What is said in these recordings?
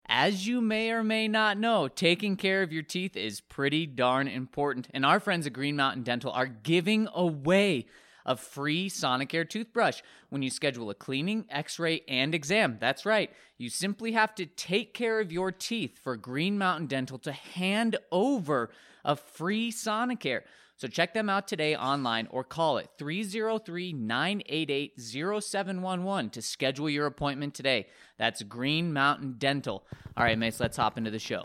As you may or may not know, taking care of your teeth is pretty darn important. And our friends at Green Mountain Dental are giving away a free Sonicare toothbrush when you schedule a cleaning, x-ray, and exam. That's right. You simply have to take care of your teeth for Green Mountain Dental to hand over a free Sonicare. So check them out today online or call it 303-988-0711 to schedule your appointment today. That's Green Mountain Dental. All right, mates, let's hop into the show.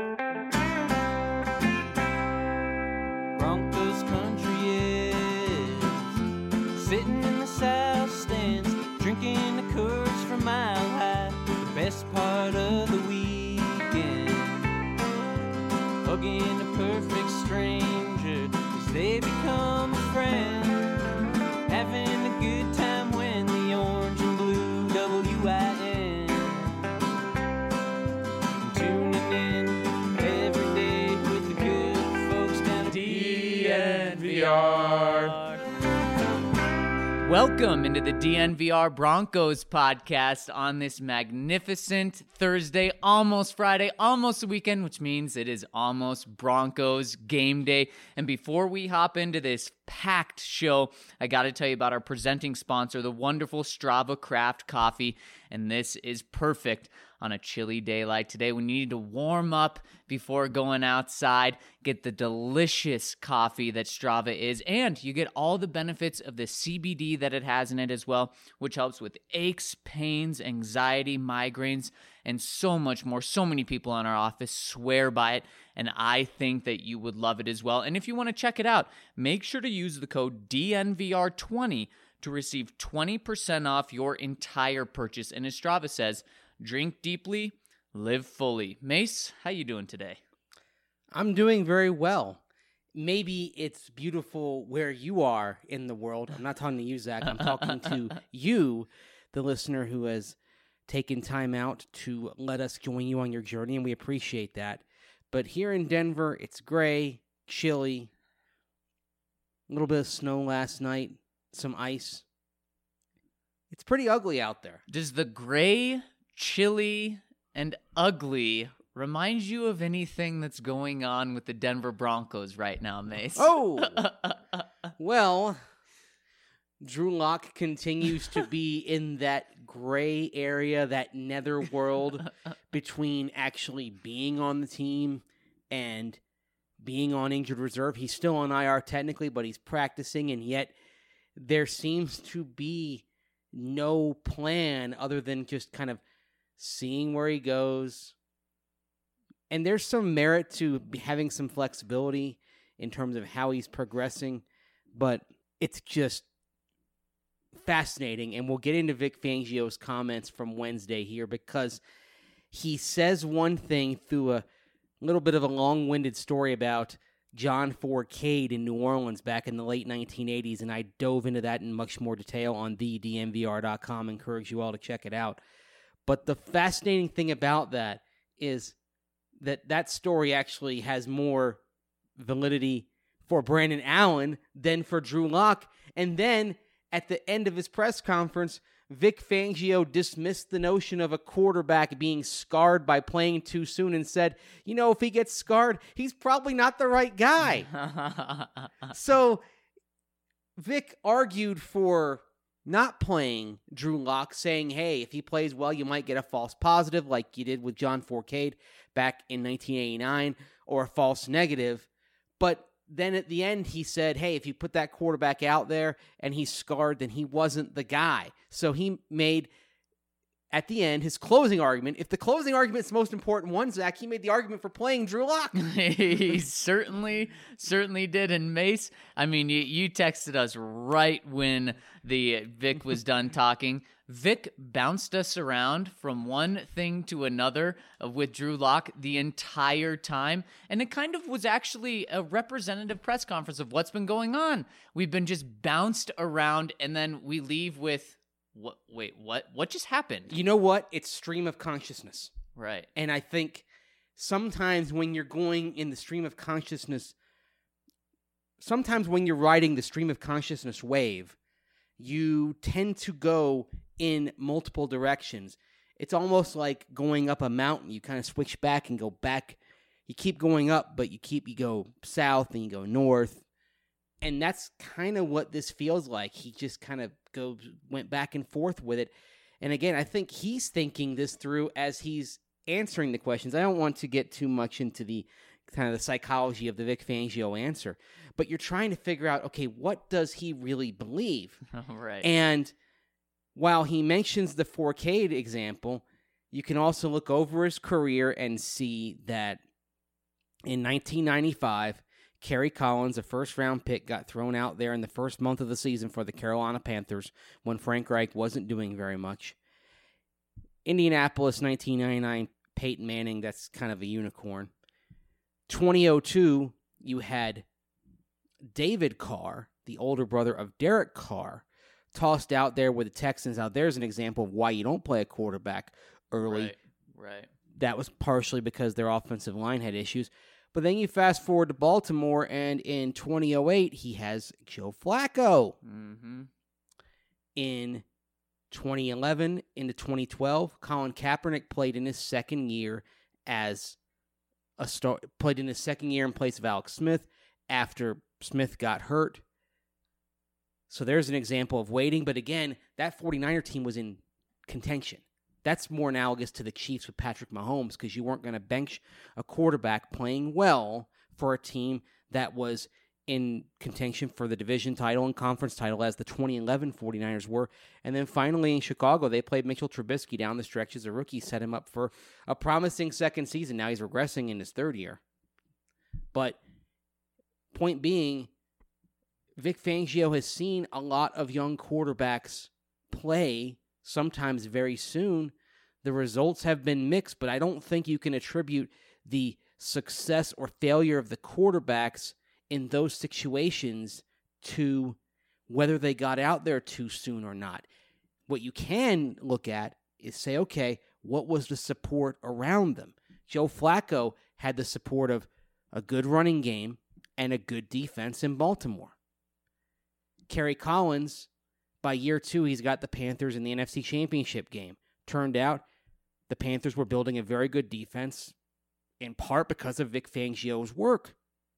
Broncos country is sitting in the south stands, drinking the Coors from Mile High. The best part of the weekend, hugging a perfect stranger as they become a friend, having a good time when the orange and blue WIN, tuning in every day with the good folks down at DNVR. Welcome into the DNVR Broncos podcast on this magnificent Thursday, almost Friday, almost the weekend, which means it is almost Broncos game day. And before we hop into this packed show, I got to tell you about our presenting sponsor, the wonderful Strava Craft Coffee. And this is perfect on a chilly day like today when you need to warm up before going outside. Get the delicious coffee that Strava is, and you get all the benefits of the CBD that it has in it as well, which helps with aches, pains, anxiety, migraines, and so much more. So many people in our office swear by it, and I think that you would love it as well. And if you want to check it out, make sure to use the code DNVR20 to receive 20% off your entire purchase. And as Strava says, drink deeply, live fully. Mace, how you doing today? I'm doing very well. Maybe it's beautiful where you are in the world. I'm not talking to you, Zach. I'm talking to you, the listener who has taken time out to let us join you on your journey, and we appreciate that. But here in Denver, it's gray, chilly, a little bit of snow last night, some ice. It's pretty ugly out there. Does the gray, chilly, and ugly remind you of anything that's going on with the Denver Broncos right now, Mace? Oh! Well, Drew Lock continues to be in that gray area, that netherworld between actually being on the team and being on injured reserve. He's still on IR technically, but he's practicing, and yet there seems to be no plan other than just kind of seeing where he goes. And there's some merit to having some flexibility in terms of how he's progressing, but it's just fascinating. And we'll get into Vic Fangio's comments from Wednesday here, because he says one thing through a little bit of a long-winded story about John Fourcade in New Orleans back in the late 1980s, and I dove into that in much more detail on thednvr.com. Encourage you all to check it out. But the fascinating thing about that is that story actually has more validity for Brandon Allen than for Drew Lock. And then at the end of his press conference, Vic Fangio dismissed the notion of a quarterback being scarred by playing too soon and said, you know, if he gets scarred, he's probably not the right guy. So Vic argued for not playing Drew Lock, saying, hey, if he plays well, you might get a false positive like you did with John Fourcade back in 1989, or a false negative. But then at the end, he said, hey, if you put that quarterback out there and he's scarred, then he wasn't the guy. So he made, at the end, his closing argument. If the closing argument is the most important one, Zach, he made the argument for playing Drew Lock. He certainly did. And Mace, I mean, you texted us right when the Vic was done talking. Vic bounced us around from one thing to another with Drew Lock the entire time, and it kind of was actually a representative press conference of what's been going on. We've been just bounced around, and then we leave with, what just happened? You know what? It's stream of consciousness. Right. And I think sometimes when you're going in the stream of consciousness, sometimes when you're riding the stream of consciousness wave, you tend to go in multiple directions. it's almost like going up a mountain. You kind of switch back and go back. You keep going up, but you go south and you go north. And that's kind of what this feels like. He just kind of went back and forth with it. And again, I think he's thinking this through as he's answering the questions. I don't want to get too much into the kind of the psychology of the Vic Fangio answer, but you're trying to figure out, okay, what does he really believe? Right. And while he mentions the 4K example, you can also look over his career and see that in 1995, Kerry Collins, a first-round pick, got thrown out there in the first month of the season for the Carolina Panthers when Frank Reich wasn't doing very much. Indianapolis, 1999, Peyton Manning, that's kind of a unicorn. 2002, you had David Carr, the older brother of Derek Carr, tossed out there with the Texans. Now, there's an example of why you don't play a quarterback early. Right. That was partially because their offensive line had issues. But then you fast forward to Baltimore, and in 2008, he has Joe Flacco. Mm-hmm. In 2011 into 2012, Colin Kaepernick played in his second year as a star. Played in his second year in place of Alex Smith after Smith got hurt. So there's an example of waiting. But again, that 49er team was in contention. That's more analogous to the Chiefs with Patrick Mahomes because you weren't going to bench a quarterback playing well for a team that was in contention for the division title and conference title as the 2011 49ers were. And then finally in Chicago, they played Mitchell Trubisky down the stretch as a rookie, set him up for a promising second season. Now he's regressing in his third year. But point being, Vic Fangio has seen a lot of young quarterbacks play sometimes very soon. The results have been mixed, but I don't think you can attribute the success or failure of the quarterbacks in those situations to whether they got out there too soon or not. What you can look at is say, okay, what was the support around them? Joe Flacco had the support of a good running game and a good defense in Baltimore. Kerry Collins, by year 2, he's got the Panthers in the NFC Championship game. Turned out the Panthers were building a very good defense, in part because of Vic Fangio's work.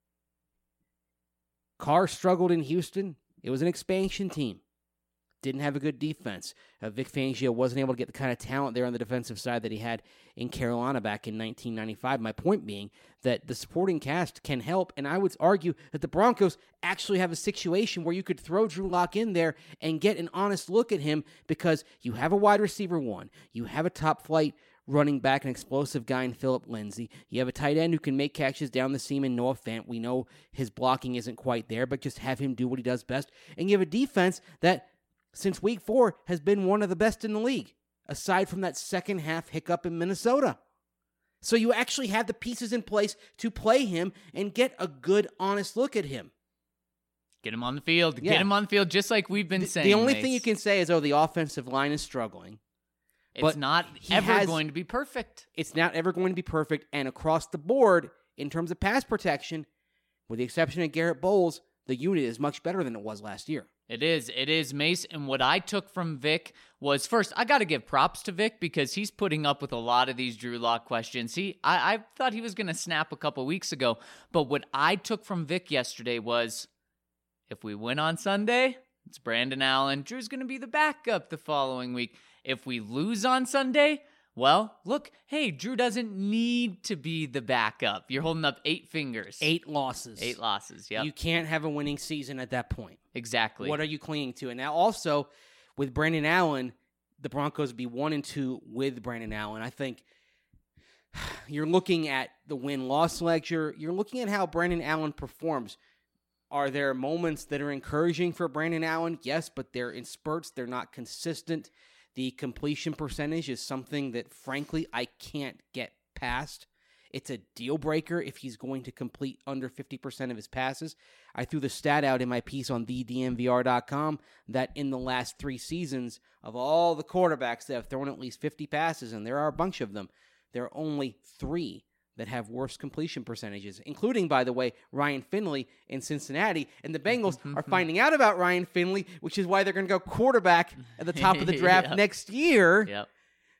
Carr struggled in Houston. It was an expansion team. Didn't have a good defense. Vic Fangio wasn't able to get the kind of talent there on the defensive side that he had in Carolina back in 1995. My point being that the supporting cast can help, and I would argue that the Broncos actually have a situation where you could throw Drew Lock in there and get an honest look at him because you have a wide receiver one, you have a top-flight running back, an explosive guy in Phillip Lindsay. You have a tight end who can make catches down the seam in Noah Fant. We know his blocking isn't quite there, but just have him do what he does best. And you have a defense that, since week 4, has been one of the best in the league, aside from that second half hiccup in Minnesota. So you actually have the pieces in place to play him and get a good, honest look at him. Get him on the field. Yeah. Get him on the field just like we've been saying. The only Mace. thing you can say is, the offensive line is struggling. It's not ever going to be perfect. It's not ever going to be perfect. And across the board, in terms of pass protection, with the exception of Garrett Bowles, the unit is much better than it was last year. It is, Mace. And what I took from Vic was, first, I got to give props to Vic because he's putting up with a lot of these Drew Lock questions. I thought he was going to snap a couple weeks ago. But what I took from Vic yesterday was, if we win on Sunday, it's Brandon Allen. Drew's going to be the backup the following week. If we lose on Sunday, well, look, hey, Drew doesn't need to be the backup. You're holding up 8 fingers. 8 losses. 8 losses, yep. You can't have a winning season at that point. Exactly. What are you clinging to? And now also, with Brandon Allen, the Broncos would be 1-2 with Brandon Allen. I think you're looking at the win-loss ledger. You're looking at how Brandon Allen performs. Are there moments that are encouraging for Brandon Allen? Yes, but they're in spurts. They're not consistent. The completion percentage is something that, frankly, I can't get past. It's a deal breaker if he's going to complete under 50% of his passes. I threw the stat out in my piece on thedmvr.com that in the last 3 seasons, of all the quarterbacks that have thrown at least 50 passes, and there are a bunch of them, there are only 3 that have worse completion percentages, including, by the way, Ryan Finley in Cincinnati. And the Bengals are finding out about Ryan Finley, which is why they're going to go quarterback at the top of the draft next year. Yep.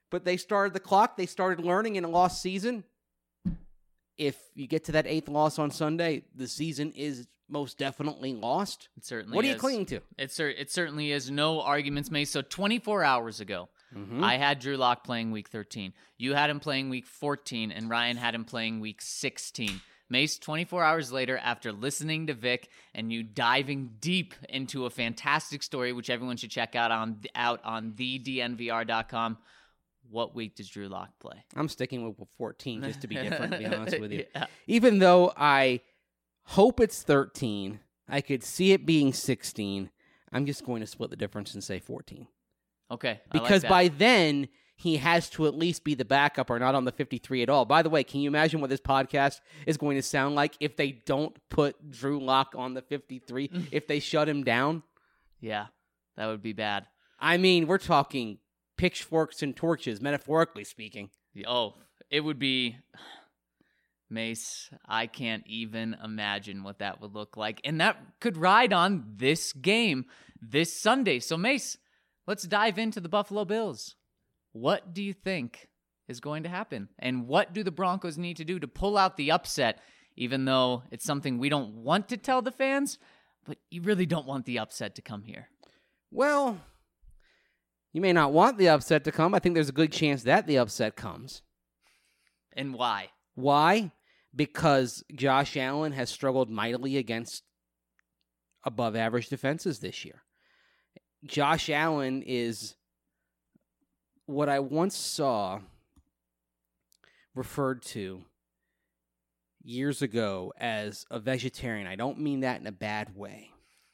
but they started the clock. They started learning in a lost season. If you get to that 8th loss on Sunday, the season is most definitely lost. It certainly What are is. you clinging to? It certainly is. No arguments made. So 24 hours ago, I had Drew Lock playing week 13. You had him playing week 14, and Ryan had him playing week 16. Mace, 24 hours later, after listening to Vic and you diving deep into a fantastic story, which everyone should check out on thednvr.com, what week does Drew Lock play? I'm sticking with 14 just to be different, to be honest with you. Yeah. Even though I hope it's 13, I could see it being 16, I'm just going to split the difference and say 14. Okay. Because by then, he has to at least be the backup or not on the 53 at all. By the way, can you imagine what this podcast is going to sound like if they don't put Drew Lock on the 53, if they shut him down? Yeah, that would be bad. I mean, we're talking pitchforks and torches, metaphorically speaking. Oh, it would be... Mace, I can't even imagine what that would look like. And that could ride on this game this Sunday. So, Mace, let's dive into the Buffalo Bills. What do you think is going to happen? And what do the Broncos need to do to pull out the upset, even though it's something we don't want to tell the fans, but you really don't want the upset to come here? Well, you may not want the upset to come. I think there's a good chance that the upset comes. And why? Why? Because Josh Allen has struggled mightily against above-average defenses this year. Josh Allen is what I once saw referred to years ago as a vegetarian. I don't mean that in a bad way.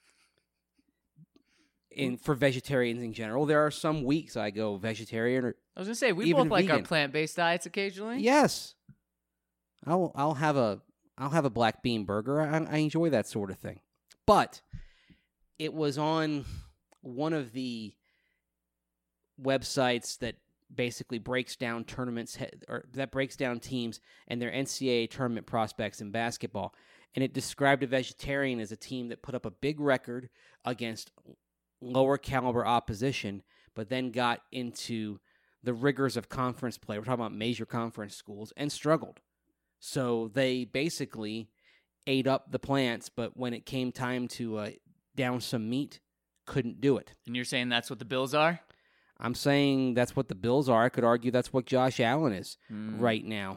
For vegetarians in general, there are some weeks I go vegetarian or I was going to say, we even both like our vegan. plant-based diets occasionally. Yes. I'll have a black bean burger. I enjoy that sort of thing. But it was on one of the websites that basically breaks down tournaments or that breaks down teams and their NCAA tournament prospects in basketball. And it described a vegetarian as a team that put up a big record against lower caliber opposition, but then got into the rigors of conference play. We're talking about major conference schools and struggled. So they basically ate up the plants, but when it came time to down some meat, couldn't do it. And you're saying that's what the Bills are? I'm saying that's what the Bills are. I could argue that's what Josh Allen is right now.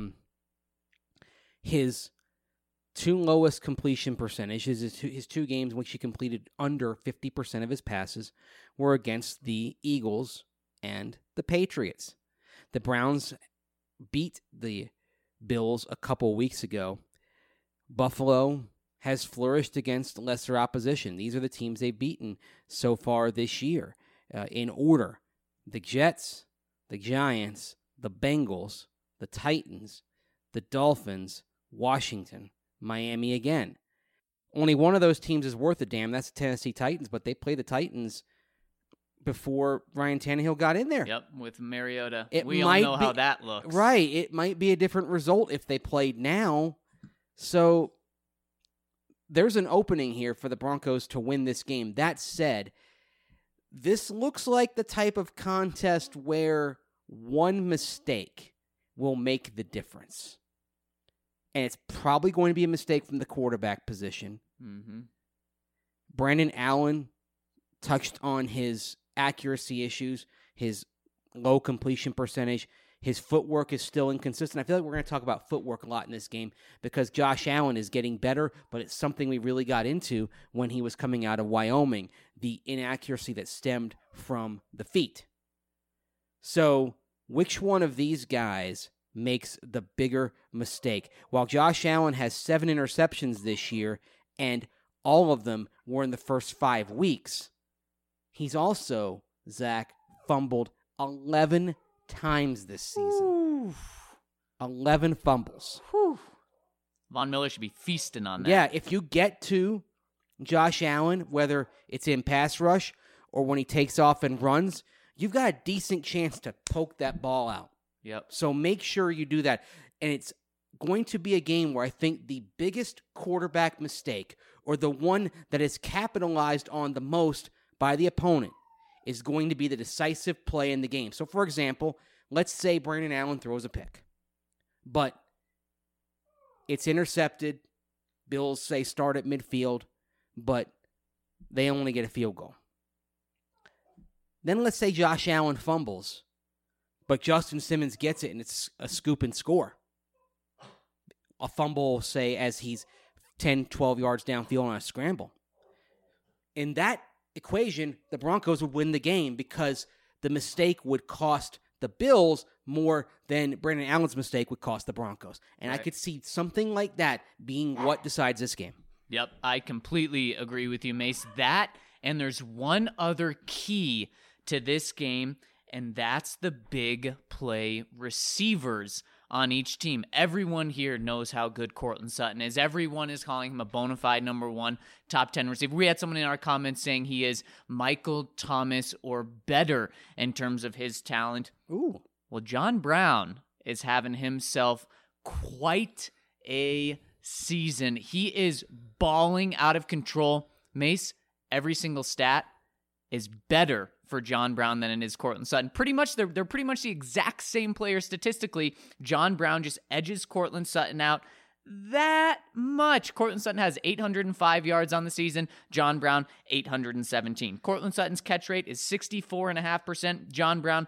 His 2 lowest completion percentages, his 2 games in which he completed under 50% of his passes, were against the Eagles and the Patriots. The Browns beat the Bills a couple weeks ago. Buffalo has flourished against lesser opposition. These are the teams they've beaten so far this year. In order, the Jets, the Giants, the Bengals, the Titans, the Dolphins, Washington, Miami again. Only one of those teams is worth a damn. That's the Tennessee Titans, but they play the Titans before Ryan Tannehill got in there. Yep, with Mariota. It We all might know be- how that looks. Right. It might be a different result if they played now. So there's an opening here for the Broncos to win this game. That said, this looks like the type of contest where one mistake will make the difference. And it's probably going to be a mistake from the quarterback position. Mm-hmm. Brandon Allen touched on his accuracy issues, his low completion percentage. His footwork is still inconsistent. I feel like we're going to talk about footwork a lot in this game because Josh Allen is getting better, but it's something we really got into when he was coming out of Wyoming, the inaccuracy that stemmed from the feet. So, which one of these guys makes the bigger mistake? While Josh Allen has 7 interceptions this year, and all of them were in the first 5 weeks, he's also, Zach, fumbled 11 times this season. 11 fumbles. Von Miller should be feasting on that. Yeah, if you get to Josh Allen, whether it's in pass rush or when he takes off and runs, you've got a decent chance to poke that ball out. Yep. So make sure you do that. And it's going to be a game where I think the biggest quarterback mistake, or the one that is capitalized on the most by the opponent, is going to be the decisive play in the game. So, for example, let's say Brandon Allen throws a pick, but it's intercepted. Bills say start at midfield, but they only get a field goal. Then let's say Josh Allen fumbles, but Justin Simmons gets it and it's a scoop and score. A fumble, say, as he's 10, 12 yards downfield on a scramble. In that equation, the Broncos would win the game because the mistake would cost the Bills more than Brandon Allen's mistake would cost the Broncos. And I could see something like that being what decides this game. Yep, I completely agree with you, Mace. That, and there's one other key to this game, and that's the big play receivers on each team. Everyone here knows how good Courtland Sutton is. Everyone is calling him a bona fide number 1 top 10 receiver. We had someone in our comments saying he is Michael Thomas or better in terms of his talent. Ooh. Well, John Brown is having himself quite a season. He is balling out of control. Mace, every single stat is better for John Brown than it is Courtland Sutton. Pretty much, they're pretty much the exact same player statistically. John Brown just edges Courtland Sutton out that much. Courtland Sutton has 805 yards on the season. John Brown, 817. Courtland Sutton's catch rate is 64.5%. John Brown,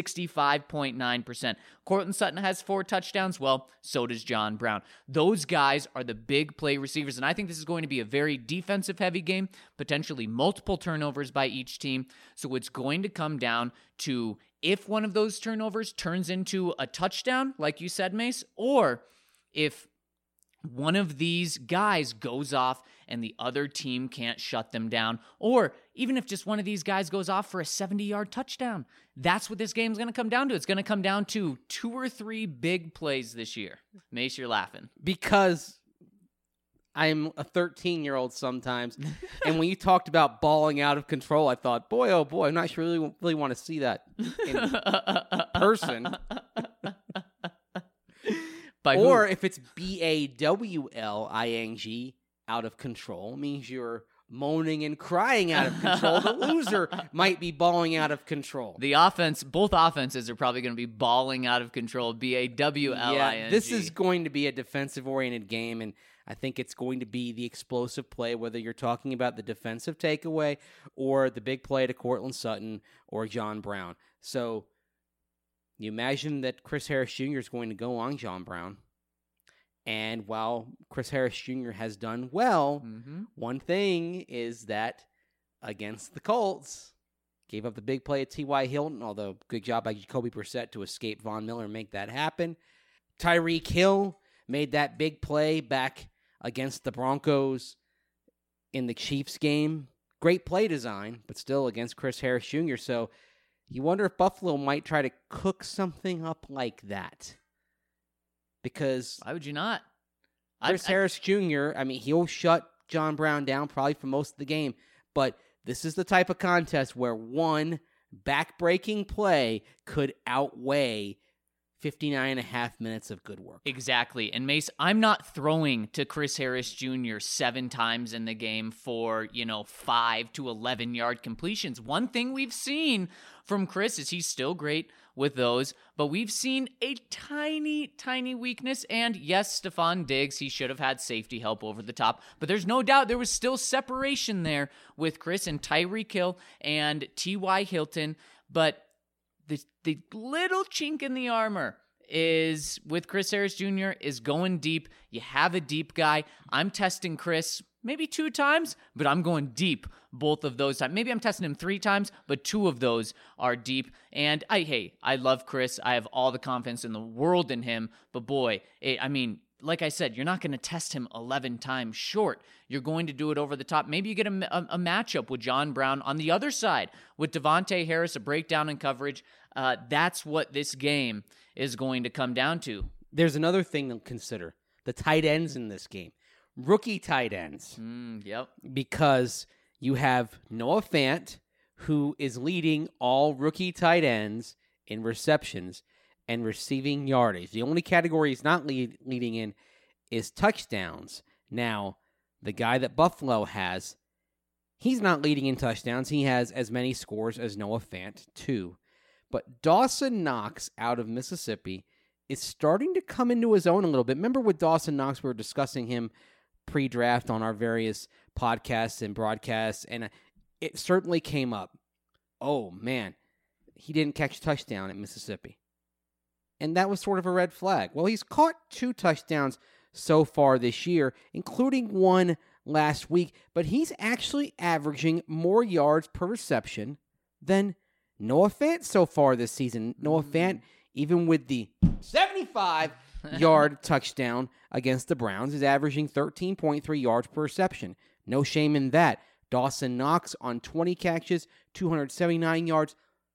65.9%. Courtland Sutton has 4 touchdowns. Well, so does John Brown. Those guys are the big play receivers, and I think this is going to be a very defensive-heavy game, potentially multiple turnovers by each team. So it's going to come down to if one of those turnovers turns into a touchdown, like you said, Mace, or if one of these guys goes off and the other team can't shut them down, or even if just one of these guys goes off for a 70-yard touchdown. That's what this game's going to come down to. It's going to come down to 2 or 3 big plays this year. Mace, you're laughing. Because I'm a 13-year-old sometimes, and when you talked about balling out of control, I thought, boy, oh boy, I'm not sure really want to see that in person. Or if it's BAWLING, out of control, means you're moaning and crying out of control. The loser might be balling out of control. Both offenses are probably going to be balling out of control. BAWLING. Yeah, this is going to be a defensive-oriented game, and I think it's going to be the explosive play, whether you're talking about the defensive takeaway or the big play to Courtland Sutton or John Brown. So you imagine that Chris Harris Jr. is going to go on John Brown. And while Chris Harris Jr. has done well, one thing is that against the Colts, gave up the big play at T.Y. Hilton, although good job by Jacoby Brissett to escape Von Miller and make that happen. Tyreek Hill made that big play back against the Broncos in the Chiefs game. Great play design, but still against Chris Harris Jr., so you wonder if Buffalo might try to cook something up like that. Because why would you not? Chris Harris Jr., I mean, he'll shut John Brown down probably for most of the game, but this is the type of contest where one back-breaking play could outweigh 59.5 minutes of good work. Exactly. And Mace, I'm not throwing to Chris Harris Jr. 7 times in the game for, 5 to 11 yard completions. One thing we've seen from Chris is he's still great with those, but we've seen a tiny, tiny weakness. And yes, Stephon Diggs, he should have had safety help over the top, but there's no doubt there was still separation there with Chris and Tyreek Hill and T.Y. Hilton. But the little chink in the armor is with Chris Harris Jr. is going deep. You have a deep guy. I'm testing Chris maybe 2 times, but I'm going deep both of those times. Maybe I'm testing him 3 times, but 2 of those are deep. And I love Chris. I have all the confidence in the world in him. But boy, like I said, you're not going to test him 11 times short. You're going to do it over the top. Maybe you get a matchup with John Brown on the other side with Devontae Harris, a breakdown in coverage. That's what this game is going to come down to. There's another thing to consider. The tight ends in this game. Rookie tight ends. Yep. Because you have Noah Fant, who is leading all rookie tight ends in receptions and receiving yardage. The only category he's not leading in is touchdowns. Now, the guy that Buffalo has He's not leading in touchdowns. He has as many scores as Noah Fant, 2. But Dawson Knox out of Mississippi is starting to come into his own a little bit. Remember with Dawson Knox, we were discussing him pre-draft on our various podcasts and broadcasts, and it certainly came up. Oh, man, he didn't catch a touchdown at Mississippi. And that was sort of a red flag. Well, he's caught 2 touchdowns so far this year, including one last week, but he's actually averaging more yards per reception than Noah Fant so far this season. Noah Fant, even with the 75-yard touchdown against the Browns, is averaging 13.3 yards per reception. No shame in that. Dawson Knox on 20 catches, 279 yards,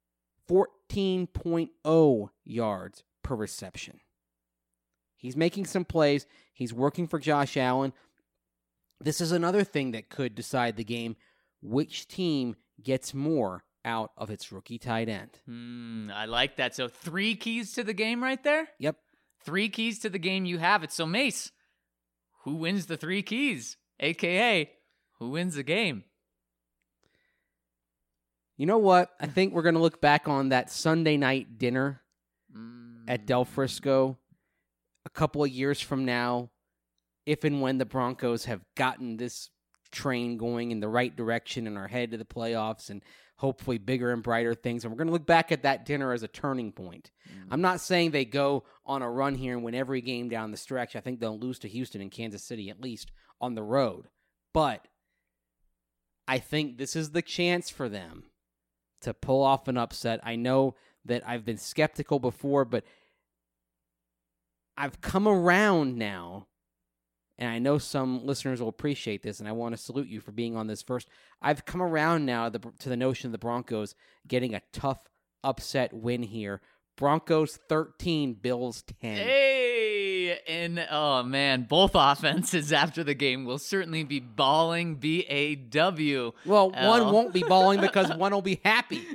14.0 yards per reception. He's making some plays. He's working for Josh Allen. This is another thing that could decide the game. Which team gets more out of its rookie tight end? I like that. So 3 keys to the game right there? Yep. 3 keys to the game, you have it. So Mace, who wins the 3 keys? AKA, who wins the game? You know what? I think we're going to look back on that Sunday night dinner at Del Frisco a couple of years from now, if and when the Broncos have gotten this train going in the right direction and are headed to the playoffs and hopefully bigger and brighter things. And we're going to look back at that dinner as a turning point. I'm not saying they go on a run here and win every game down the stretch. I think they'll lose to Houston and Kansas City, at least on the road. But I think this is the chance for them to pull off an upset. I know that I've been skeptical before, but I've come around now, and I know some listeners will appreciate this, and I want to salute you for being on this first. I've come around now to the notion of the Broncos getting a tough upset win here. Broncos 13, Bills 10. Hey! And, oh, man, both offenses after the game will certainly be balling, B-A-W. Well, one won't be balling because one will be happy.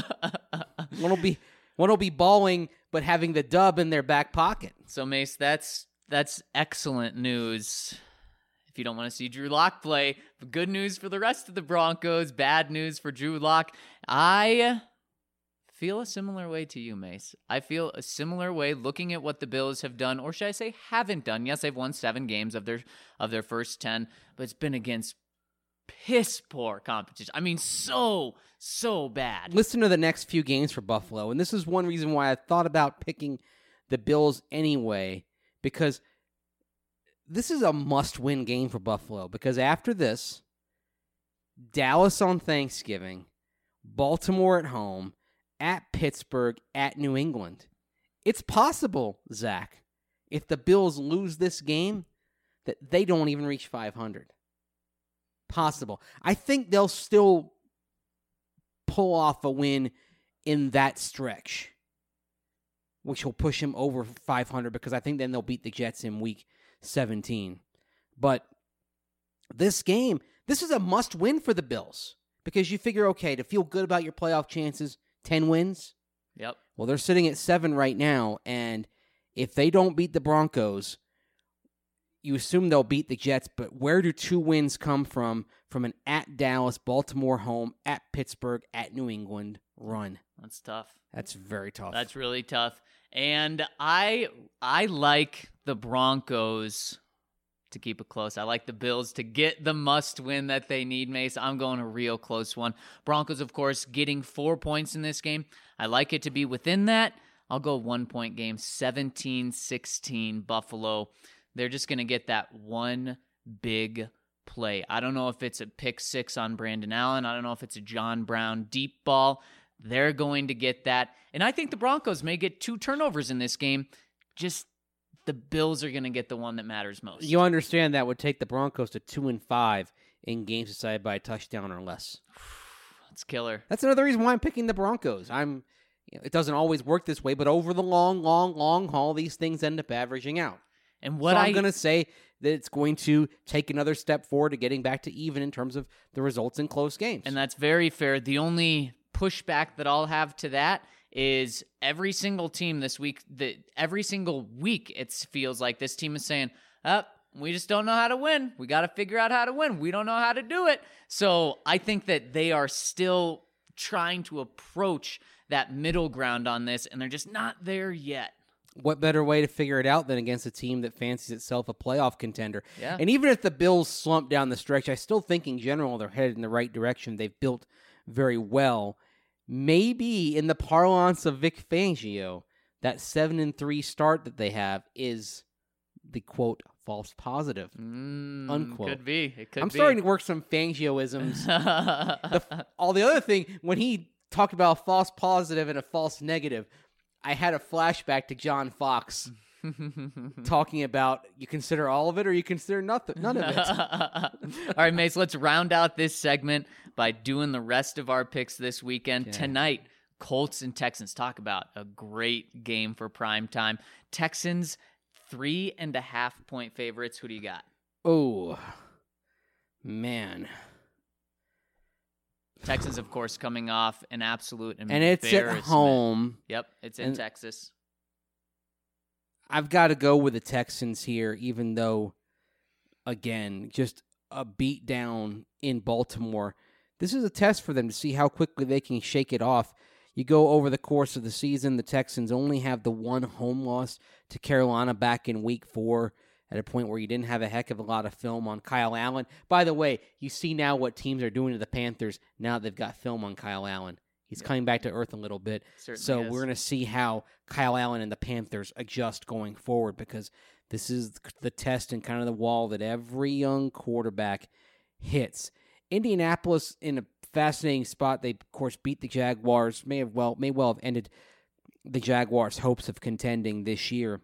One will be balling, but having the dub in their back pocket. So, Mace, that's excellent news. If you don't want to see Drew Lock play, good news for the rest of the Broncos, bad news for Drew Lock. I feel a similar way to you, Mace. I feel a similar way looking at what the Bills have done, or should I say haven't done. Yes, they've won 7 games of their first 10, but it's been against piss poor competition. I mean, so bad. Listen to the next few games for Buffalo, and this is one reason why I thought about picking the Bills anyway, because this is a must-win game for Buffalo, because after this, Dallas on Thanksgiving, Baltimore at home, at Pittsburgh, at New England. It's possible, Zach, if the Bills lose this game, that they don't even reach 500. Possible. I think they'll still pull off a win in that stretch, which will push them over 500, because I think then they'll beat the Jets in week 17. But this game, this is a must-win for the Bills, because you figure, okay, to feel good about your playoff chances, 10 wins? Yep. Well, they're sitting at 7 right now, and if they don't beat the Broncos, you assume they'll beat the Jets, but where do 2 wins come from an at Dallas, Baltimore home, at Pittsburgh, at New England run? That's tough. That's very tough. That's really tough. And I like the Broncos to keep it close. I like the Bills to get the must-win that they need, Mace. I'm going a real close one. Broncos, of course, getting 4 points in this game. I like it to be within that. I'll go 1-point game, 17-16 Buffalo. They're just going to get that one big play. I don't know if it's a pick 6 on Brandon Allen. I don't know if it's a John Brown deep ball. They're going to get that. And I think the Broncos may get 2 turnovers in this game. Just the Bills are going to get the one that matters most. You understand that would take the Broncos to 2-5 in games decided by a touchdown or less. That's killer. That's another reason why I'm picking the Broncos. It doesn't always work this way, but over the long haul, these things end up averaging out. And what I'm going to say that it's going to take another step forward to getting back to even in terms of the results in close games. And that's very fair. The only pushback that I'll have to that is every single team this week, every single week it feels like this team is saying, we just don't know how to win. We got to figure out how to win. We don't know how to do it. So I think that they are still trying to approach that middle ground on this, and they're just not there yet. What better way to figure it out than against a team that fancies itself a playoff contender? Yeah. And even if the Bills slump down the stretch, I still think in general they're headed in the right direction. They've built very well. Maybe in the parlance of Vic Fangio, that 7-3 start that they have is the, quote, false positive, unquote. Could be. It could I'm be. starting to work some Fangioisms. All the other thing, when he talked about a false positive and a false negative, I had a flashback to John Fox talking about you consider all of it or you consider none of it. All right, Mace, let's round out this segment by doing the rest of our picks this weekend. Okay. Tonight, Colts and Texans. Talk about a great game for prime time. Texans, 3.5-point favorites. Who do you got? Oh, man. Texans, of course, coming off an absolute And it's at embarrassment. home. Yep, it's in Texas. I've got to go with the Texans here, even though, again, just a beat down in Baltimore. This is a test for them to see how quickly they can shake it off. You go over the course of the season, the Texans only have the one home loss to Carolina back in Week 4 at a point where you didn't have a heck of a lot of film on Kyle Allen. By the way, you see now what teams are doing to the Panthers now they've got film on Kyle Allen. He's coming back to earth a little bit. Certainly So is. we're going to see how Kyle Allen and the Panthers adjust going forward because this is the test and kind of the wall that every young quarterback hits. Indianapolis in a fascinating spot. They, of course, beat the Jaguars. May well have ended the Jaguars' hopes of contending this year.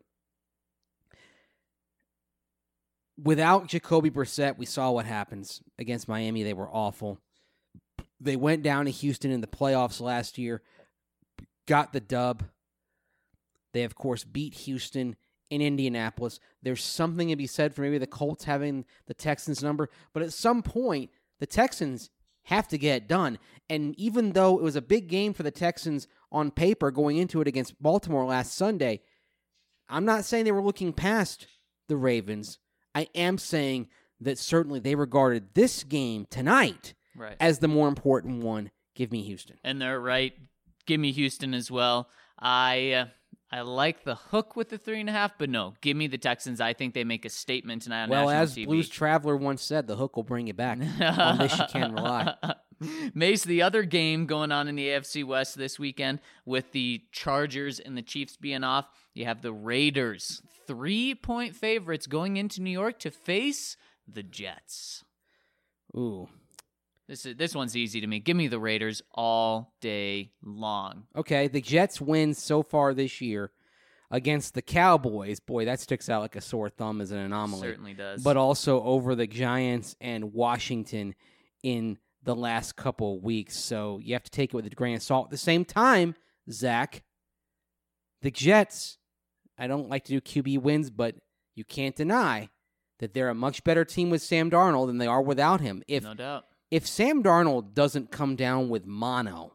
Without Jacoby Brissett, we saw what happens. Against Miami, they were awful. They went down to Houston in the playoffs last year, got the dub. They, of course, beat Houston in Indianapolis. There's something to be said for maybe the Colts having the Texans' number, but at some point, the Texans have to get it done. And even though it was a big game for the Texans on paper going into it against Baltimore last Sunday, I'm not saying they were looking past the Ravens. I am saying that certainly they regarded this game tonight Right. as the more important one. Give me Houston. And they're right. Give me Houston as well. I like the hook with the 3.5, but no, give me the Texans. I think they make a statement tonight on Well, national as TV. Blues Traveler once said, the hook will bring you back. On this you can rely. Mace, the other game going on in the AFC West this weekend with the Chargers and the Chiefs being off, you have the Raiders, 3-point favorites going into New York to face the Jets. Ooh. This one's easy to me. Give me the Raiders all day long. Okay, the Jets win so far this year against the Cowboys. Boy, that sticks out like a sore thumb as an anomaly. Certainly does. But also over the Giants and Washington in the last couple of weeks. So you have to take it with a grain of salt. At the same time, Zach, the Jets, I don't like to do QB wins, but you can't deny that they're a much better team with Sam Darnold than they are without him. No doubt. If Sam Darnold doesn't come down with mono,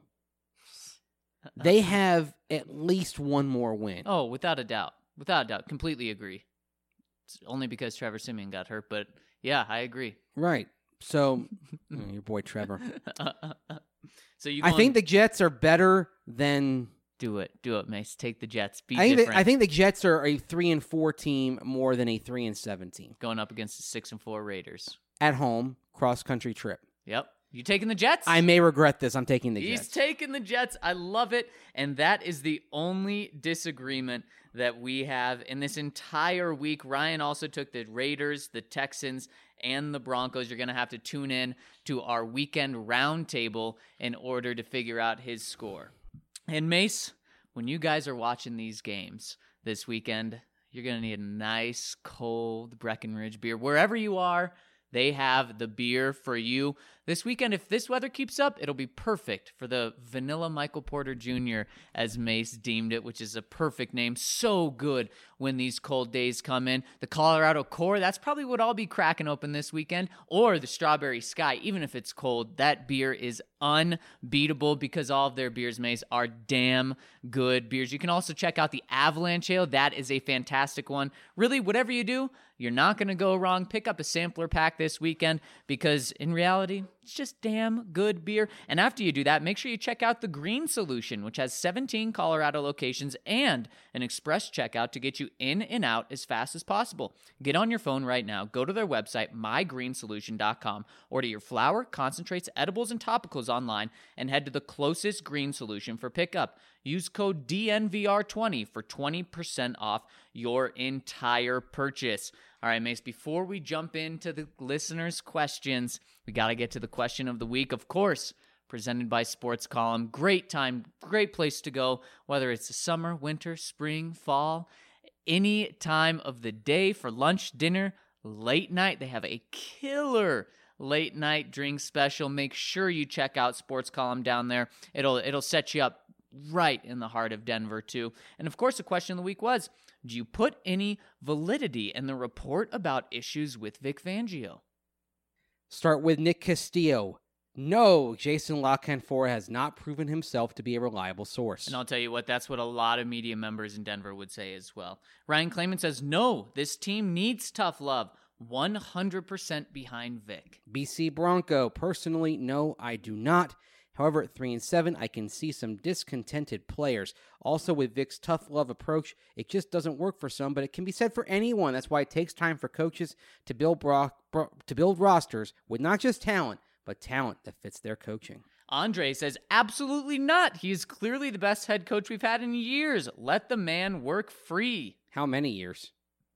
they have at least one more win. Oh, without a doubt. Without a doubt. Completely agree. It's only because Trevor Siemian got hurt, but yeah, I agree. Right. So, your boy Trevor. So you I think the Jets are better than... Do it, Mace. Take the Jets. Be I different. think the Jets are a 3-4 team more than a 3-7 team. Going up against the 6-4 Raiders. At home, cross-country trip. Yep. You taking the Jets? I may regret this. I'm taking the He's Jets. taking the Jets. I love it. And that is the only disagreement that we have in this entire week. Ryan also took the Raiders, the Texans, and the Broncos. You're going to have to tune in to our weekend roundtable in order to figure out his score. And Mace, when you guys are watching these games this weekend, you're going to need a nice, cold Breckenridge beer. Wherever you are, they have the beer for you. This weekend, if this weather keeps up, it'll be perfect for the Vanilla Michael Porter Jr., as Mace deemed it, which is a perfect name. So good when these cold days come in. The Colorado Core, that's probably what I'll be cracking open this weekend, or the Strawberry Sky. Even if it's cold, that beer is unbeatable because all of their beers, Mace, are damn good beers. You can also check out the Avalanche Ale. That is a fantastic one. Really, whatever you do, you're not going to go wrong. Pick up a sampler pack this weekend because in reality, it's just damn good beer. And after you do that, make sure you check out the Green Solution, which has 17 Colorado locations and an express checkout to get you in and out as fast as possible. Get on your phone right now. Go to their website, mygreensolution.com. Order your flour, concentrates, edibles, and topicals online and head to the closest Green Solution for pickup. Use code DNVR20 for 20% off your entire purchase. All right, Mace, before we jump into the listeners' questions, we got to get to the question of the week, of course, presented by Sports Column. Great time, great place to go, whether it's the summer, winter, spring, fall, any time of the day for lunch, dinner, late night. They have a killer late night drink special. Make sure you check out Sports Column down there. It'll set you up right in the heart of Denver, too. And of course, the question of the week was, do you put any validity in the report about issues with Vic Fangio? Start with Nick Castillo. No, Jason La Canfora has not proven himself to be a reliable source. And I'll tell you what, that's what a lot of media members in Denver would say as well. Ryan Clayman says, no, this team needs tough love. 100% behind Vic. BC Bronco. Personally, no, I do not. However, at 3-7, I can see some discontented players. Also, with Vic's tough love approach, it just doesn't work for some, but it can be said for anyone. That's why it takes time for coaches to build rosters with not just talent, but talent that fits their coaching. Andre says, absolutely not. He is clearly the best head coach we've had in years. Let the man work free. How many years?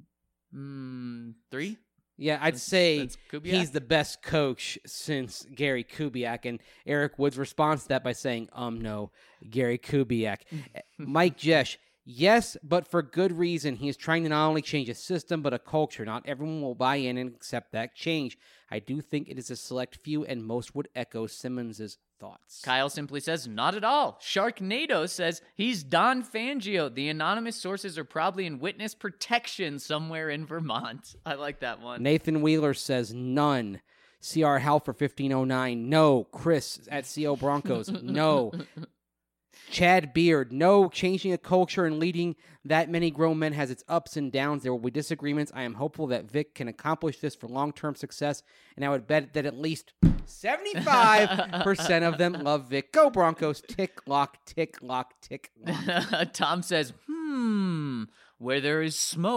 3? Yeah, I'd say Kubiak? He's the best coach since Gary Kubiak. And Eric Woods responds to that by saying, no, Gary Kubiak. Mike Jesh, yes, but for good reason. He is trying to not only change a system, but a culture. Not everyone will buy in and accept that change. I do think it is a select few, and most would echo Simmons' thoughts. Kyle simply says, not at all. Sharknado says, he's Don Fangio. The anonymous sources are probably in witness protection somewhere in Vermont. I like that one. Nathan Wheeler says, none. CR Hal for 1509, no. Chris at CO Broncos, no. Chad Beard, no. Changing a culture and leading that many grown men has its ups and downs. There will be disagreements. I am hopeful that Vic can accomplish this for long-term success, and I would bet that at least 75% of them love Vic. Go Broncos. Tick, lock, tick, lock, tick, lock. Tom says, where there is smoke, ...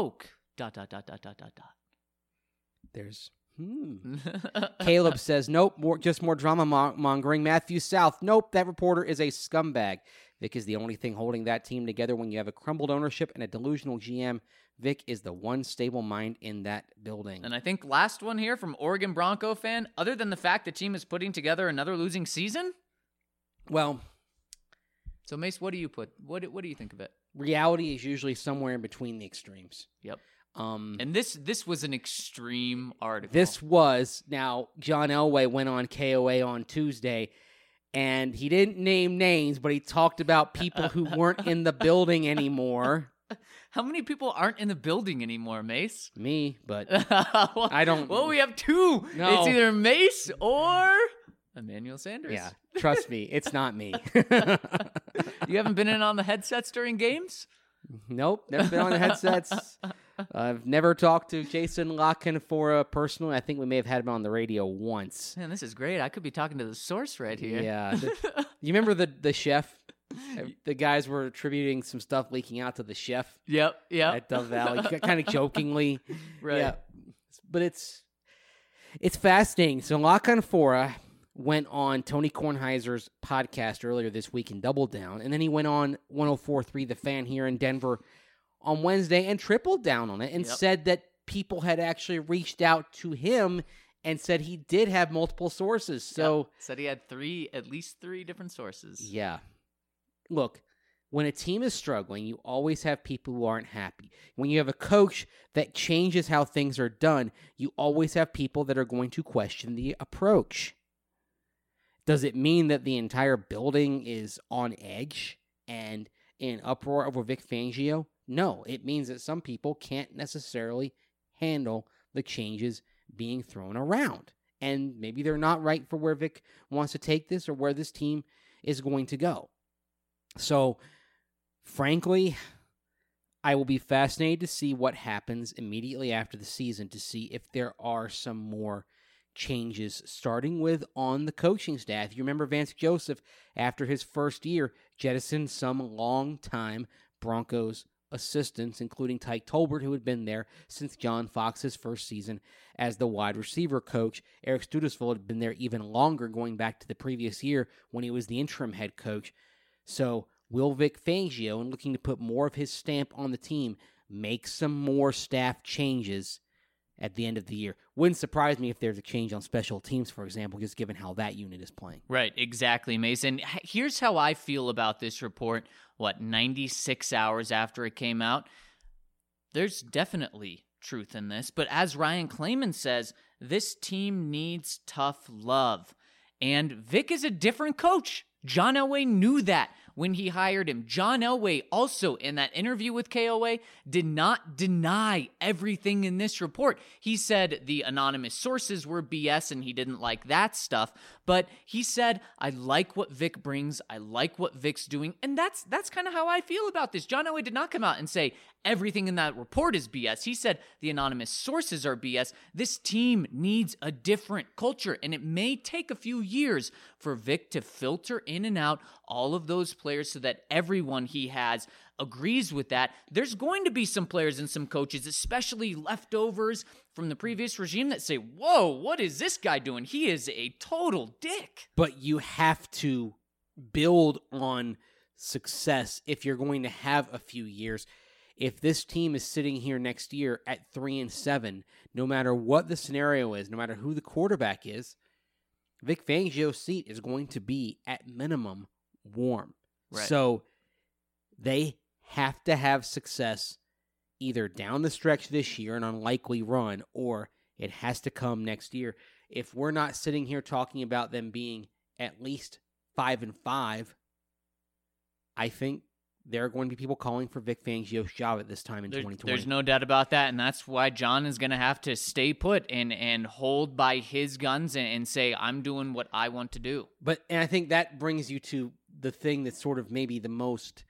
There's Caleb says, nope, just more drama mongering. Matthew South, nope, that reporter is a scumbag. Vic is the only thing holding that team together. When you have a crumbled ownership and a delusional GM, Vic is the one stable mind in that building. And I think last one here from Oregon Bronco fan, other than the fact the team is putting together another losing season? Well, so Mace, what do you put? What do you think of it? Reality is usually somewhere in between the extremes. Yep. And this was an extreme article. Now, John Elway went on KOA on Tuesday, and he didn't name names, but he talked about people who weren't in the building anymore. How many people aren't in the building anymore, Mace? Me, but well, I don't. Well, we have 2. No. It's either Mace or Emmanuel Sanders. Yeah, trust me, it's not me. You haven't been in on the headsets during games? Nope, never been on the headsets. I've never talked to Jason La Canfora personally. I think we may have had him on the radio once. Man, this is great. I could be talking to the source right here. Yeah. You remember the chef? The guys were attributing some stuff leaking out to the chef. Yep. At Dove Valley, kind of jokingly. Right. Yeah. But it's fascinating. So La Canfora went on Tony Kornheiser's podcast earlier this week and doubled down. And then he went on 104.3 The Fan here in Denver on Wednesday and tripled down on it and said that people had actually reached out to him and said he did have multiple sources. So said he had at least three different sources. Yeah. Look, when a team is struggling, you always have people who aren't happy. When you have a coach that changes how things are done, you always have people that are going to question the approach. Does it mean that the entire building is on edge and in uproar over Vic Fangio? No, it means that some people can't necessarily handle the changes being thrown around. And maybe they're not right for where Vic wants to take this or where this team is going to go. So, frankly, I will be fascinated to see what happens immediately after the season to see if there are some more changes, starting with on the coaching staff. You remember Vance Joseph, after his first year, jettisoned some long-time Broncos assistants, including Tyke Tolbert, who had been there since John Fox's first season as the wide receiver coach. Eric Studesville had been there even longer, going back to the previous year when he was the interim head coach. So will Vic Fangio, in looking to put more of his stamp on the team, make some more staff changes at the end of the year? Wouldn't surprise me if there's a change on special teams, for example, just given how that unit is playing. Right, exactly, Mason. Here's how I feel about this report, 96 hours after it came out? There's definitely truth in this, but as Ryan Klayman says, this team needs tough love. And Vic is a different coach. John Elway knew that when he hired him. John Elway also, in that interview with KOA, did not deny everything in this report. He said the anonymous sources were BS and he didn't like that stuff, but he said, I like what Vic brings, I like what Vic's doing, and that's kind of how I feel about this. John Elway did not come out and say everything in that report is BS. He said the anonymous sources are BS. This team needs a different culture, and it may take a few years for Vic to filter in and out all of those players so that everyone he has agrees with that. There's going to be some players and some coaches, especially leftovers from the previous regime, that say, whoa, what is this guy doing? He is a total dick. But you have to build on success if you're going to have a few years. If this team is sitting here next year at 3-7, no matter what the scenario is, no matter who the quarterback is, Vic Fangio's seat is going to be, at minimum, warm. Right. So they have to have success either down the stretch this year, an unlikely run, or it has to come next year. If we're not sitting here talking about them being at least 5-5, I think there are going to be people calling for Vic Fangio's job at this time in 2020. There's no doubt about that, and that's why John is going to have to stay put and hold by his guns and say, I'm doing what I want to do. And I think that brings you to the thing that's sort of maybe the most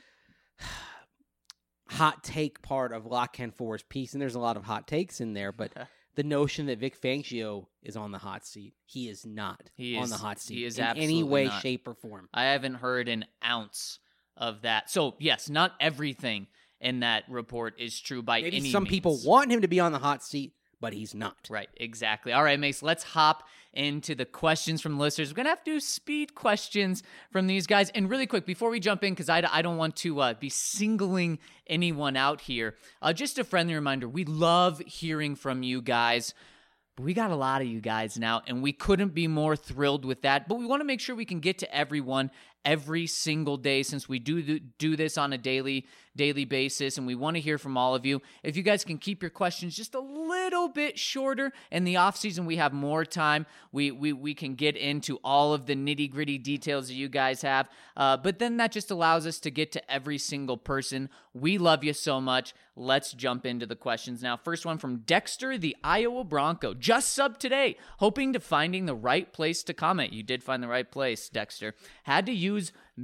hot take part of Lock Ken For's piece, and there's a lot of hot takes in there, but the notion that Vic Fangio is on the hot seat. He is not on the hot seat. He is in absolutely any way, not. shape, or form. I haven't heard an ounce of that. So, yes, not everything in that report is true by any means. Maybe some people want him to be on the hot seat, but he's not. Right, exactly. All right, Mace, let's hop into the questions from listeners. We're going to have to do speed questions from these guys. And really quick, before we jump in, because I don't want to be singling anyone out here, just a friendly reminder, we love hearing from you guys. We got a lot of you guys now, and we couldn't be more thrilled with that. But we want to make sure we can get to everyone every single day, since we do this on a daily basis, and we want to hear from all of you. If you guys can keep your questions just a little bit shorter, in the off season we have more time. We can get into all of the nitty-gritty details that you guys have, but then that just allows us to get to every single person. We love you so much. Let's jump into the questions now. First one from Dexter, the Iowa Bronco. Just subbed today, hoping to finding the right place to comment. You did find the right place, Dexter. Had to use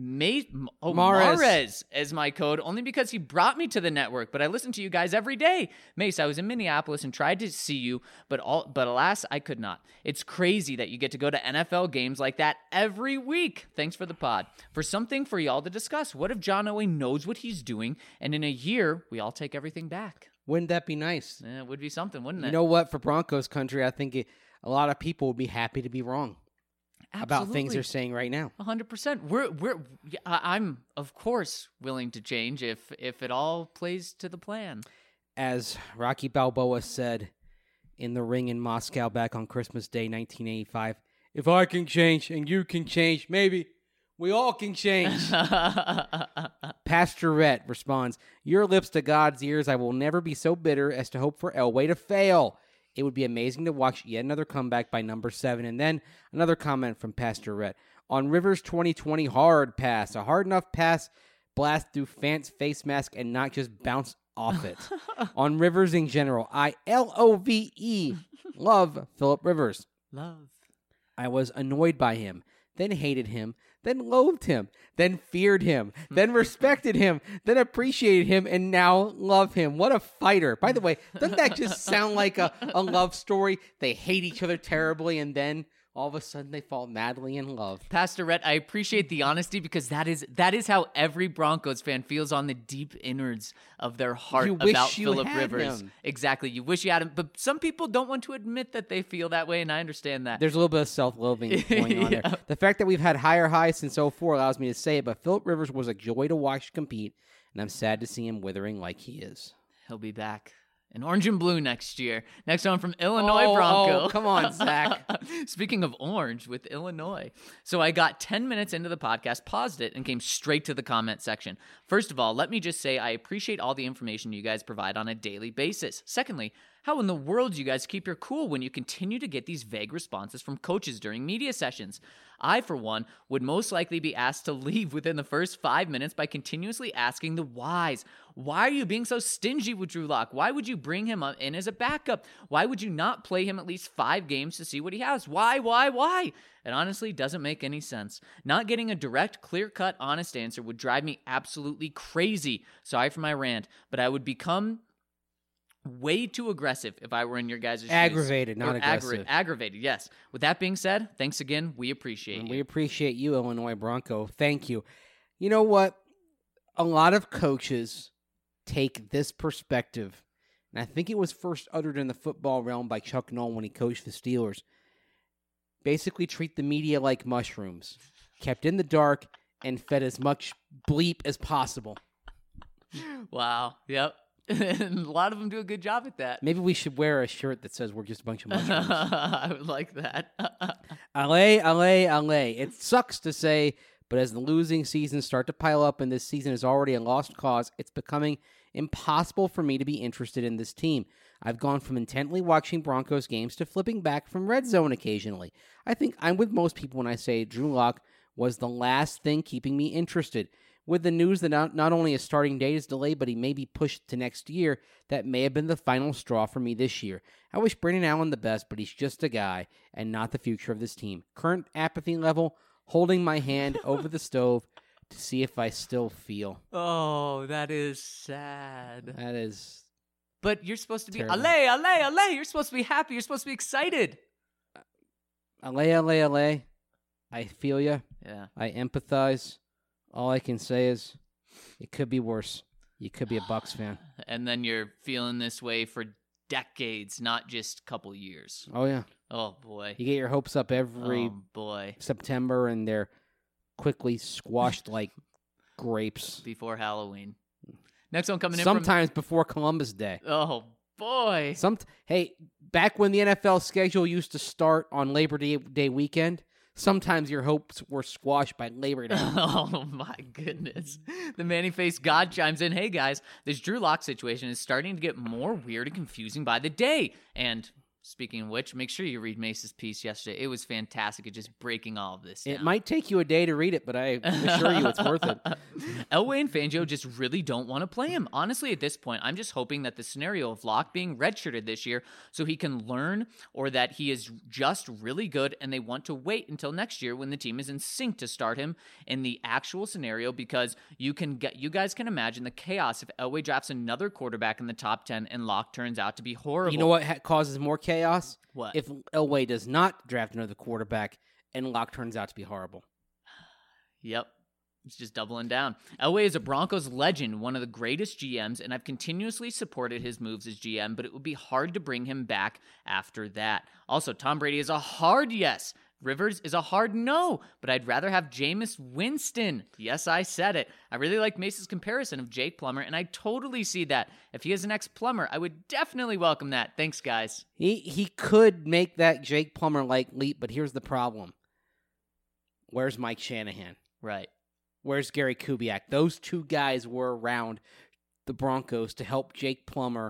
Mares as my code only because he brought me to the network, but I listen to you guys every day. Mace, I was in Minneapolis and tried to see you, but alas, I could not. It's crazy that you get to go to NFL games like that every week. Thanks for the pod. For something for y'all to discuss, what if John Elway knows what he's doing, and in a year, we all take everything back? Wouldn't that be nice? It would be something, wouldn't it? You know what? For Broncos country, I think a lot of people would be happy to be wrong. Absolutely. About things they're saying right now. 100%. I'm of course willing to change if it all plays to the plan. As Rocky Balboa said in the ring in Moscow back on Christmas Day 1985, if I can change and you can change, maybe we all can change. Pastorette responds, your lips to God's ears, I will never be so bitter as to hope for Elway to fail. It would be amazing to watch yet another comeback by number 7. And then another comment from Pastor Rhett. On Rivers' 2020 hard pass, a hard enough pass blast through Fant's face mask and not just bounce off it. On Rivers in general, I LOVE love Phillip Rivers. Love. I was annoyed by him, then hated him, then loathed him, then feared him, then respected him, then appreciated him, and now love him. What a fighter. By the way, doesn't that just sound like a love story? They hate each other terribly, and then all of a sudden they fall madly in love. Pastor Rhett, I appreciate the honesty because that is how every Broncos fan feels on the deep innards of their heart about Phillip Rivers. Him. Exactly. You wish you had him, but some people don't want to admit that they feel that way, and I understand that. There's a little bit of self-loathing going on there. The fact that we've had higher highs since 04 allows me to say it, but Phillip Rivers was a joy to watch compete, and I'm sad to see him withering like he is. He'll be back in orange and blue next year. Next one from Illinois Bronco. Oh, come on, Zach. Speaking of orange with Illinois. So I got 10 minutes into the podcast, paused it, and came straight to the comment section. First of all, let me just say I appreciate all the information you guys provide on a daily basis. Secondly, how in the world do you guys keep your cool when you continue to get these vague responses from coaches during media sessions? I, for one, would most likely be asked to leave within the first 5 minutes by continuously asking the whys. Why are you being so stingy with Drew Lock? Why would you bring him in as a backup? Why would you not play him at least 5 games to see what he has? Why? It honestly doesn't make any sense. Not getting a direct, clear-cut, honest answer would drive me absolutely crazy. Sorry for my rant, but I would become way too aggressive if I were in your guys' shoes. Aggravated, not aggressive. Aggravated, yes. With that being said, thanks again. We appreciate you. We appreciate you, Illinois Bronco. Thank you. You know what? A lot of coaches take this perspective, and I think it was first uttered in the football realm by Chuck Noll when he coached the Steelers. Basically treat the media like mushrooms, kept in the dark and fed as much bleep as possible. Wow. Yep. And a lot of them do a good job at that. Maybe we should wear a shirt that says we're just a bunch of mushrooms. I would like that. Allez. It sucks to say, but as the losing seasons start to pile up and this season is already a lost cause, it's becoming impossible for me to be interested in this team. I've gone from intently watching Broncos games to flipping back from Red Zone occasionally. I think I'm with most people when I say Drew Lock was the last thing keeping me interested. With the news that not only his starting date is delayed, but he may be pushed to next year, that may have been the final straw for me this year. I wish Brandon Allen the best, but he's just a guy and not the future of this team. Current apathy level, holding my hand over the stove to see if I still feel. Oh, that is sad. That is... But you're supposed to be, terrible. allez. You're supposed to be happy. You're supposed to be excited. Allez. I feel you. Yeah. I empathize. All I can say is it could be worse. You could be a Bucs fan. And then you're feeling this way for decades, not just a couple years. Oh, yeah. Oh, boy. You get your hopes up every September, and they're quickly squashed like grapes. Before Halloween. Next one coming in sometimes before Columbus Day. Oh, boy. Hey, back when the NFL schedule used to start on Labor Day weekend, sometimes your hopes were squashed by Labor Day. Oh, my goodness. The Manny-faced God chimes in, hey, guys, this Drew Lock situation is starting to get more weird and confusing by the day. And speaking of which, make sure you read Mace's piece yesterday. It was fantastic at just breaking all of this down. It might take you a day to read it, but I assure you it's worth it. Elway and Fangio just really don't want to play him. Honestly, at this point, I'm just hoping that the scenario of Locke being redshirted this year so he can learn, or that he is just really good and they want to wait until next year when the team is in sync to start him in the actual scenario, because you guys can imagine the chaos if Elway drafts another quarterback in the top 10 and Locke turns out to be horrible. You know what causes more chaos? What? If Elway does not draft another quarterback and Locke turns out to be horrible. Yep. It's just doubling down. Elway is a Broncos legend, one of the greatest GMs, and I've continuously supported his moves as GM, but it would be hard to bring him back after that. Also, Tom Brady is a hard yes. Rivers is a hard no, but I'd rather have Jameis Winston. Yes, I said it. I really like Mace's comparison of Jake Plummer, and I totally see that. If he is an ex-Plummer, I would definitely welcome that. Thanks, guys. He could make that Jake Plummer-like leap, but here's the problem. Where's Mike Shanahan? Right. Where's Gary Kubiak? Those two guys were around the Broncos to help Jake Plummer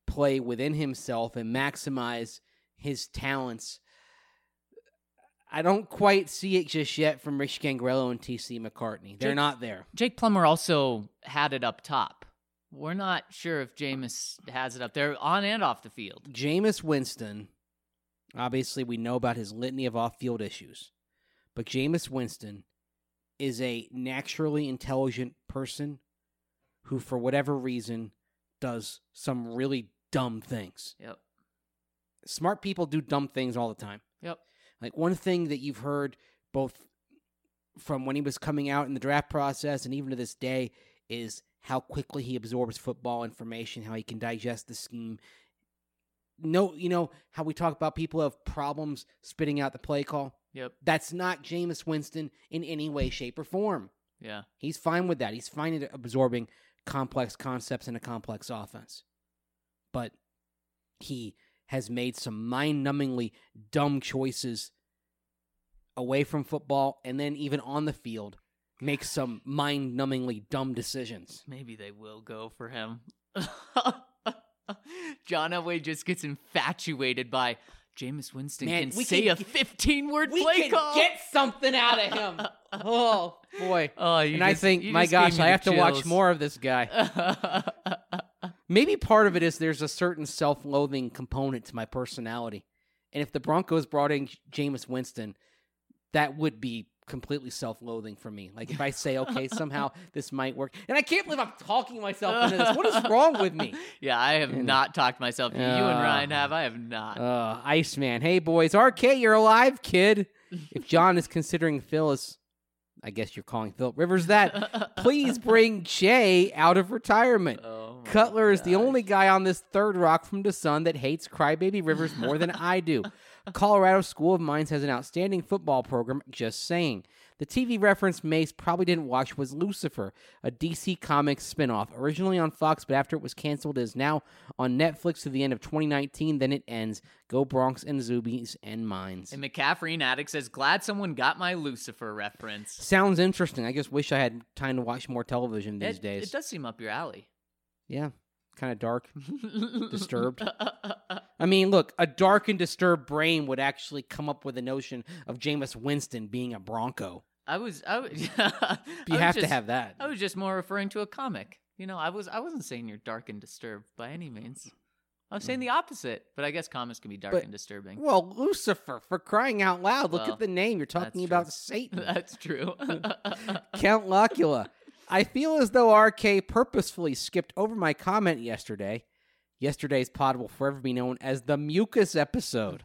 play within himself and maximize his talents. I don't quite see it just yet from Rich Gangrello and T.C. McCartney. They're not there. Jake Plummer also had it up top. We're not sure if Jameis has it up there on and off the field. Jameis Winston, obviously we know about his litany of off-field issues, but Jameis Winston is a naturally intelligent person who, for whatever reason, does some really dumb things. Yep. Smart people do dumb things all the time. Yep. Like, one thing that you've heard both from when he was coming out in the draft process and even to this day is how quickly he absorbs football information, how he can digest the scheme. No, you know, how we talk about people who have problems spitting out the play call? Yep. That's not Jameis Winston in any way, shape, or form. Yeah. He's fine with that. He's fine at absorbing complex concepts in a complex offense. But he has made some mind-numbingly dumb choices away from football, and then even on the field, makes some mind-numbingly dumb decisions. Maybe they will go for him. John Elway just gets infatuated by Jameis Winston can say a 15-word play call. We can get something out of him. Oh, boy. Oh, and I think, my gosh, I have to watch more of this guy. Maybe part of it is there's a certain self-loathing component to my personality. And if the Broncos brought in Jameis Winston, that would be completely self-loathing for me. Like, if I say, okay, somehow this might work. And I can't believe I'm talking myself into this. What is wrong with me? Yeah, I have not talked myself into you and Ryan have. I have not. Iceman. Hey, boys. RK, you're alive, kid. If John is considering Phil as, I guess you're calling Phil Rivers that, please bring Jay out of retirement. Cutler is the only guy on this third rock from the sun that hates Crybaby Rivers more than I do. Colorado School of Mines has an outstanding football program, just saying. The TV reference Mace probably didn't watch was Lucifer, a DC Comics spinoff. Originally on Fox, but after it was canceled, it is now on Netflix to the end of 2019. Then it ends. Go Bronx and Zubies and Mines. And McCaffrey and Addict says, glad someone got my Lucifer reference. Sounds interesting. I just wish I had time to watch more television these days. It does seem up your alley. Yeah. Kind of dark, disturbed. I mean, look, a dark and disturbed brain would actually come up with the notion of Jameis Winston being a Bronco. You have to have that. I was just more referring to a comic. You know, I wasn't saying you're dark and disturbed by any means. I was saying the opposite, but I guess comics can be dark and disturbing. Well, Lucifer, for crying out loud, look at the name. You're talking about Satan. That's true. Count Locula. I feel as though RK purposefully skipped over my comment yesterday. Yesterday's pod will forever be known as the Mucus episode.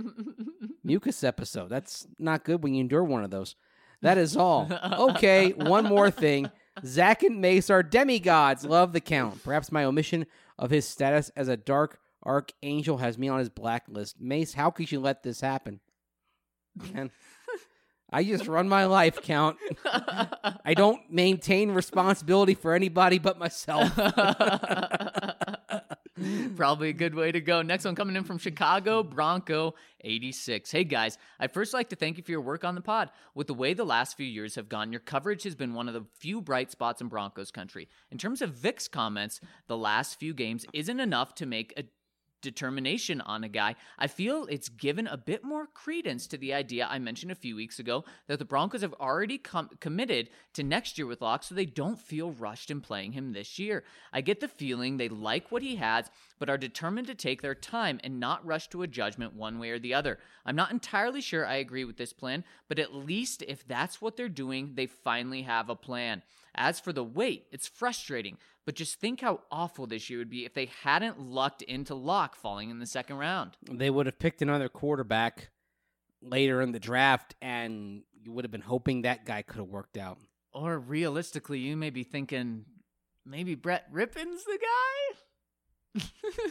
Mucus episode. That's not good when you endure one of those. That is all. Okay, one more thing. Zach and Mace are demigods. Love the Count. Perhaps my omission of his status as a dark archangel has me on his blacklist. Mace, how could you let this happen? Man. I just run my life, Count. I don't maintain responsibility for anybody but myself. Probably a good way to go. Next one coming in from Chicago, Bronco 86. Hey guys, I'd first like to thank you for your work on the pod. With the way the last few years have gone, your coverage has been one of the few bright spots in Broncos country. In terms of Vic's comments, the last few games isn't enough to make a determination on a guy. I feel it's given a bit more credence to the idea I mentioned a few weeks ago that the Broncos have already committed to next year with Locke, so they don't feel rushed in playing him this year. I get the feeling they like what he has, but are determined to take their time and not rush to a judgment one way or the other. I'm not entirely sure I agree with this plan, but at least if that's what they're doing, they finally have a plan. As for the wait, it's frustrating, but just think how awful this year would be if they hadn't lucked into Locke falling in the second round. They would have picked another quarterback later in the draft, and you would have been hoping that guy could have worked out. Or realistically, you may be thinking maybe Brett Rippon's the guy?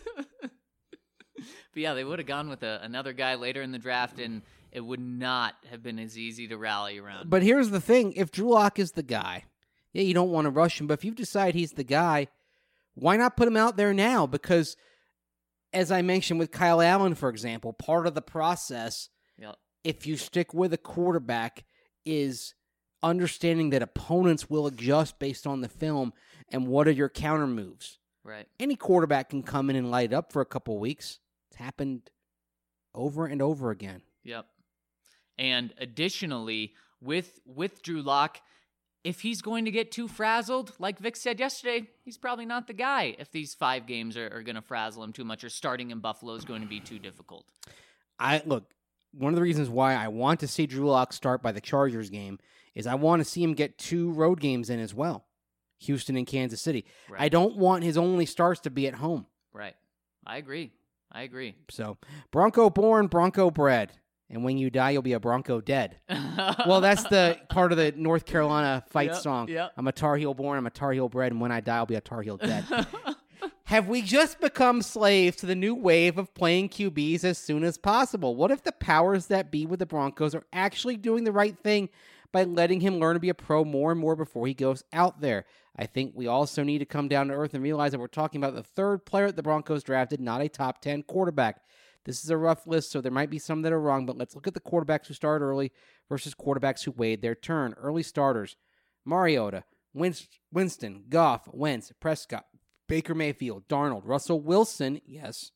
But yeah, they would have gone with another guy later in the draft, and it would not have been as easy to rally around. But here's the thing. If Drew Lock is the guy, yeah, you don't want to rush him, but if you decide he's the guy, why not put him out there now? Because, as I mentioned with Kyle Allen, for example, part of the process, if you stick with a quarterback, is understanding that opponents will adjust based on the film and what are your counter moves. Right. Any quarterback can come in and light it up for a couple of weeks. It's happened over and over again. Yep. And additionally, with Drew Lock, if he's going to get too frazzled, like Vic said yesterday, he's probably not the guy if these 5 games are going to frazzle him too much, or starting in Buffalo is going to be too difficult. Look, one of the reasons why I want to see Drew Lock start by the Chargers game is I want to see him get 2 road games in as well. Houston and Kansas City. Right. I don't want his only starts to be at home. Right. I agree. So, Bronco born, Bronco bred. And when you die, you'll be a Bronco dead. Well, that's the part of the North Carolina fight song. Yep. I'm a Tar Heel born, I'm a Tar Heel bred, and when I die, I'll be a Tar Heel dead. Have we just become slaves to the new wave of playing QBs as soon as possible? What if the powers that be with the Broncos are actually doing the right thing by letting him learn to be a pro more and more before he goes out there? I think we also need to come down to earth and realize that we're talking about the 3rd player that the Broncos drafted, not a top 10 quarterback. This is a rough list, so there might be some that are wrong, but let's look at the quarterbacks who started early versus quarterbacks who waited their turn. Early starters: Mariota, Winston, Goff, Wentz, Prescott, Baker Mayfield, Darnold, Russell Wilson, yes,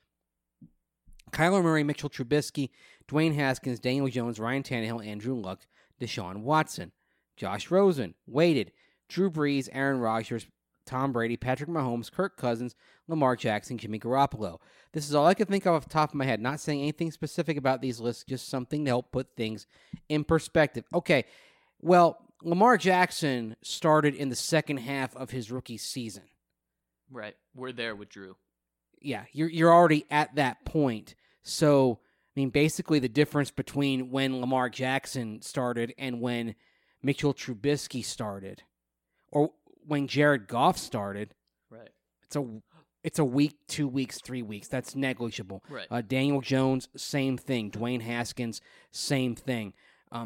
Kyler Murray, Mitchell Trubisky, Dwayne Haskins, Daniel Jones, Ryan Tannehill, Andrew Luck, Deshaun Watson, Josh Rosen, waited, Drew Brees, Aaron Rodgers, Tom Brady, Patrick Mahomes, Kirk Cousins, Lamar Jackson, Jimmy Garoppolo. This is all I can think of off the top of my head. Not saying anything specific about these lists, just something to help put things in perspective. Okay, well, Lamar Jackson started in the second half of his rookie season. Right. We're there with Drew. Yeah, you're already at that point. So, I mean, basically the difference between when Lamar Jackson started and when Mitchell Trubisky started, or when Jared Goff started, right? It's a week, 2 weeks, 3 weeks. That's negligible. Right. Daniel Jones, same thing. Dwayne Haskins, same thing.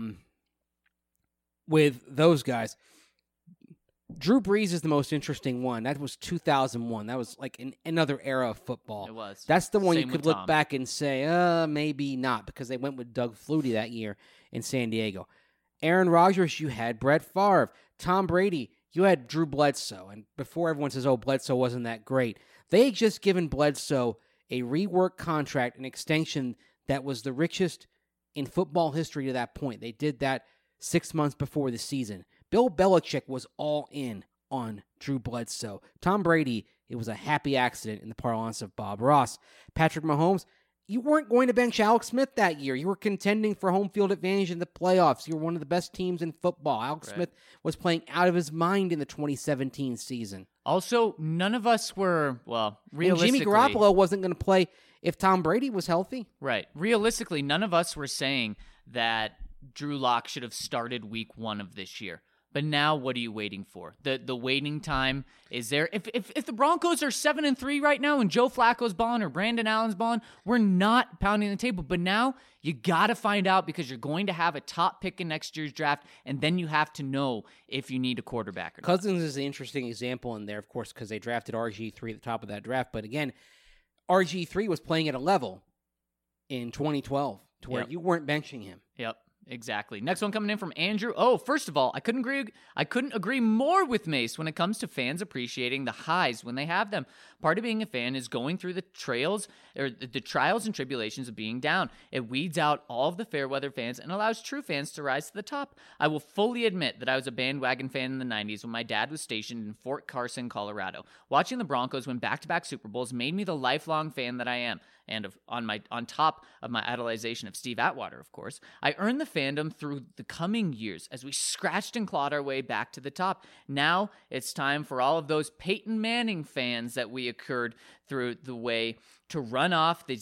With those guys, Drew Brees is the most interesting one. That was 2001. That was like another era of football. It was. That's the one Same you could with look Tom. back and say, maybe not, because they went with Doug Flutie that year in San Diego. Aaron Rodgers, you had Brett Favre. Tom Brady, you had Drew Bledsoe. And before everyone says, Bledsoe wasn't that great, they had just given Bledsoe a rework contract, an extension that was the richest in football history to that point. They did that 6 months before the season. Bill Belichick was all in on Drew Bledsoe. Tom Brady, it was a happy accident in the parlance of Bob Ross. Patrick Mahomes, you weren't going to bench Alex Smith that year. You were contending for home field advantage in the playoffs. You were one of the best teams in football. Alex Smith was playing out of his mind in the 2017 season. Also, none of us were, realistically... And Jimmy Garoppolo wasn't going to play if Tom Brady was healthy. Right. Realistically, none of us were saying that Drew Lock should have started week 1 of this year. But now, what are you waiting for? The waiting time is there. If the Broncos are 7-3 right now and Joe Flacco's balling or Brandon Allen's balling, we're not pounding the table. But now you got to find out, because you're going to have a top pick in next year's draft, and then you have to know if you need a quarterback or not. Cousins is an interesting example in there, of course, because they drafted RG3 at the top of that draft. But again, RG3 was playing at a level in 2012 to where you weren't benching him. Yep. Exactly. Next one coming in from Andrew. First of all, I couldn't agree more with Mace when it comes to fans appreciating the highs when they have them. Part of being a fan is going through the trials and tribulations of being down. It weeds out all of the fair weather fans and allows true fans to rise to the top. I will fully admit that I was a bandwagon fan in the 90s when my dad was stationed in Fort Carson, Colorado. Watching the Broncos win back-to-back Super Bowls made me the lifelong fan that I am. And on top of my idolization of Steve Atwater, of course, I earned the fandom through the coming years as we scratched and clawed our way back to the top. Now it's time for all of those Peyton Manning fans that we occurred through the way to run off to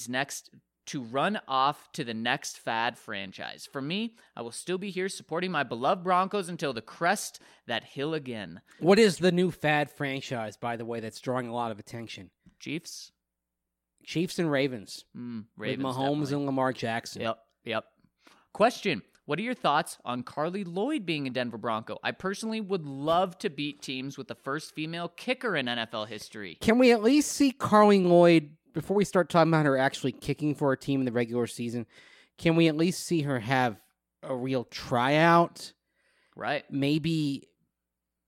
the next fad franchise. For me, I will still be here supporting my beloved Broncos until the crest that hill again. What is the new fad franchise, by the way, that's drawing a lot of attention? Chiefs and Ravens. Ravens, with Mahomes definitely. and Lamar Jackson. Yep. Question: what are your thoughts on Carly Lloyd being a Denver Bronco? I personally would love to beat teams with the first female kicker in NFL history. Can we at least see Carly Lloyd, before we start talking about her actually kicking for a team in the regular season, can we at least see her have a real tryout? Right. Maybe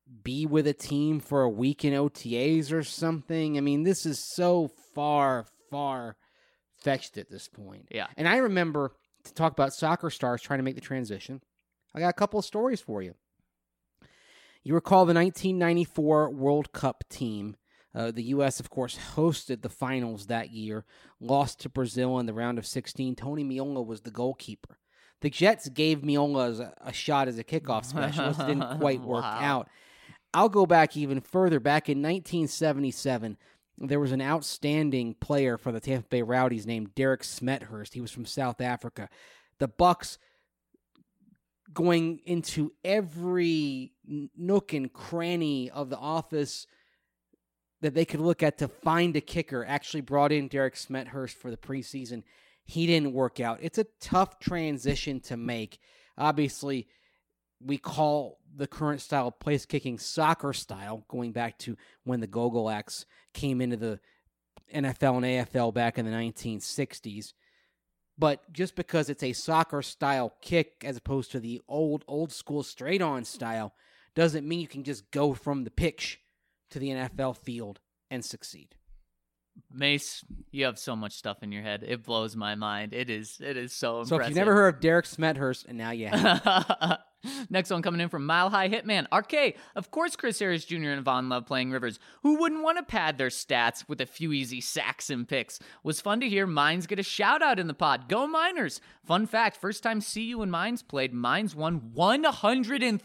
be with a team for a week in OTAs or something. I mean, this is so far-fetched at this point. Yeah. And I remember, to talk about soccer stars trying to make the transition, I got a couple of stories for you. You recall the 1994 World Cup team. The U.S., of course, hosted the finals that year, lost to Brazil in the round of 16. Tony Meola was the goalkeeper. The Jets gave Meola a shot as a kickoff specialist. It didn't quite work out. I'll go back even further. Back in 1977, there was an outstanding player for the Tampa Bay Rowdies named Derek Smethurst. He was from South Africa. The Bucks, going into every nook and cranny of the office that they could look at to find a kicker, actually brought in Derek Smethurst for the preseason. He didn't work out. It's a tough transition to make. Obviously, we call the current style of place kicking soccer style, going back to when the Gogolaks came into the NFL and AFL back in the 1960s. But just because it's a soccer style kick as opposed to the old school straight on style doesn't mean you can just go from the pitch to the NFL field and succeed. Mace, you have so much stuff in your head. It blows my mind. It is so impressive. So if you've never heard of Derek Smethurst, and now you have. Next one coming in from Mile High Hitman. RK, of course Chris Harris Jr. and Von love playing Rivers. Who wouldn't want to pad their stats with a few easy sacks and picks? Was fun to hear Mines get a shout out in the pod. Go Miners! Fun fact, first time CU and Mines played, Mines won 103-0.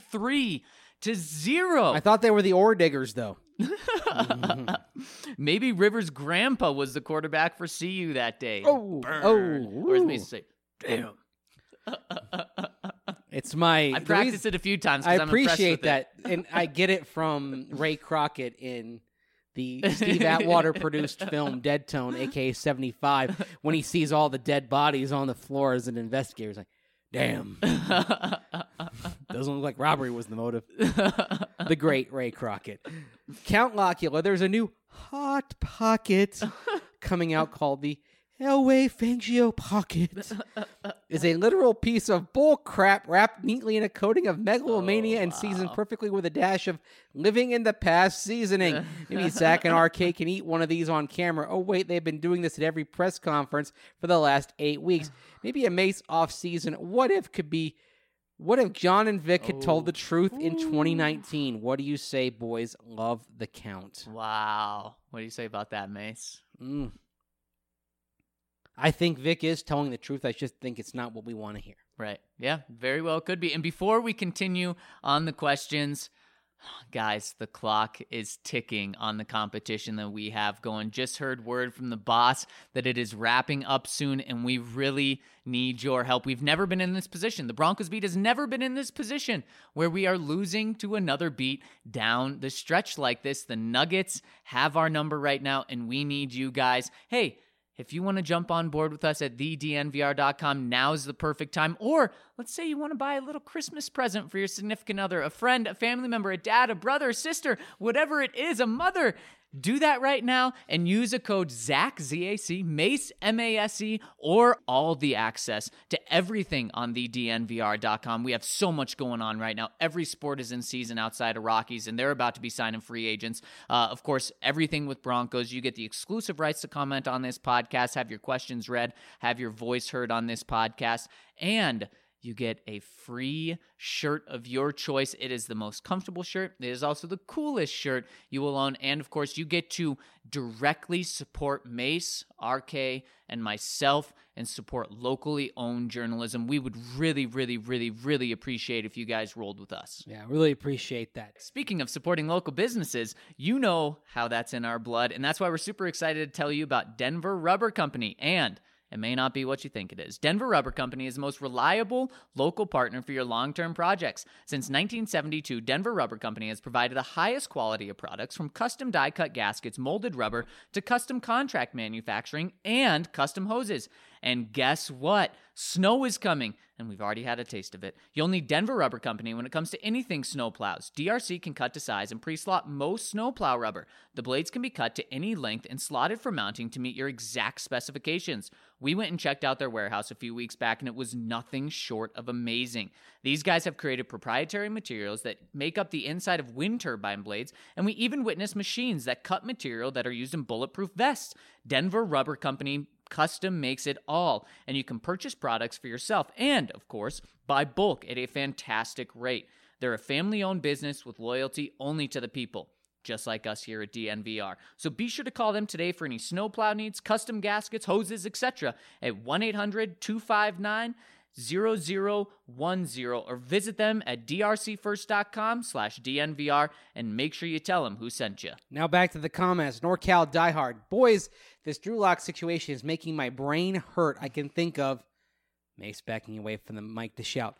I thought they were the Ore Diggers, though. Maybe Rivers' grandpa was the quarterback for CU that day. Burn. Or as Mason say, damn. It's my. I practiced it a few times. I I'm appreciate that, and I get it from Ray Crockett in the Steve Atwater produced film Dead Tone, aka 75, when he sees all the dead bodies on the floor as an investigator. He's like, damn. Doesn't look like robbery was the motive. The great Ray Crockett. Count Locula, there's a new Hot Pocket coming out called the Elway Fangio Pocket. Is a literal piece of bull crap wrapped neatly in a coating of megalomania and seasoned perfectly with a dash of living in the past seasoning. Maybe Zach and RK can eat one of these on camera. Oh, wait, they've been doing this at every press conference for the last 8 weeks. Maybe a Mace off-season. What if John and Vic had told the truth in 2019? What do you say, boys? Love the count. Wow. What do you say about that, Mace? I think Vic is telling the truth. I just think it's not what we want to hear. Right. Yeah, very well could be. And before we continue on the questions, guys, the clock is ticking on the competition that we have going. Just heard word from the boss that it is wrapping up soon, and we really need your help. We've never been in this position. The Broncos beat has never been in this position where we are losing to another beat down the stretch like this. The Nuggets have our number right now, and we need you guys. Hey, if you want to jump on board with us at thednvr.com, now's the perfect time. Or let's say you want to buy a little Christmas present for your significant other, a friend, a family member, a dad, a brother, a sister, whatever it is, a mother. Do that right now and use a code ZAC, Z-A-C, MACE, M-A-S-E, or all the access to everything on thednvr.com. We have so much going on right now. Every sport is in season outside of Rockies, and they're about to be signing free agents. Of course, everything with Broncos. You get the exclusive rights to comment on this podcast, have your questions read, have your voice heard on this podcast, and you get a free shirt of your choice. It is the most comfortable shirt. It is also the coolest shirt you will own. And, of course, you get to directly support Mace, RK, and myself and support locally owned journalism. We would really, really, really, really appreciate if you guys rolled with us. Yeah, really appreciate that. Speaking of supporting local businesses, you know how that's in our blood. And that's why we're super excited to tell you about Denver Rubber Company. And it may not be what you think it is. Denver Rubber Company is the most reliable local partner for your long-term projects. Since 1972, Denver Rubber Company has provided the highest quality of products, from custom die-cut gaskets, molded rubber, to custom contract manufacturing and custom hoses. And guess what? Snow is coming, and we've already had a taste of it. You'll need Denver Rubber Company when it comes to anything snow plows. DRC can cut to size and pre-slot most snowplow rubber. The blades can be cut to any length and slotted for mounting to meet your exact specifications. We went and checked out their warehouse a few weeks back, and it was nothing short of amazing. These guys have created proprietary materials that make up the inside of wind turbine blades, and we even witnessed machines that cut material that are used in bulletproof vests. Denver Rubber Company custom makes it all, and you can purchase products for yourself and, of course, buy bulk at a fantastic rate. They're a family-owned business with loyalty only to the people, just like us here at DNVR. So be sure to call them today for any snowplow needs, custom gaskets, hoses, etc. at 1-800-259-0010 or visit them at drcfirst.com/DNVR and make sure you tell them who sent you. Now back to the comments. NorCal diehard. Boys, this Drew Lock situation is making my brain hurt. I can think of Mace backing away from the mic to shout,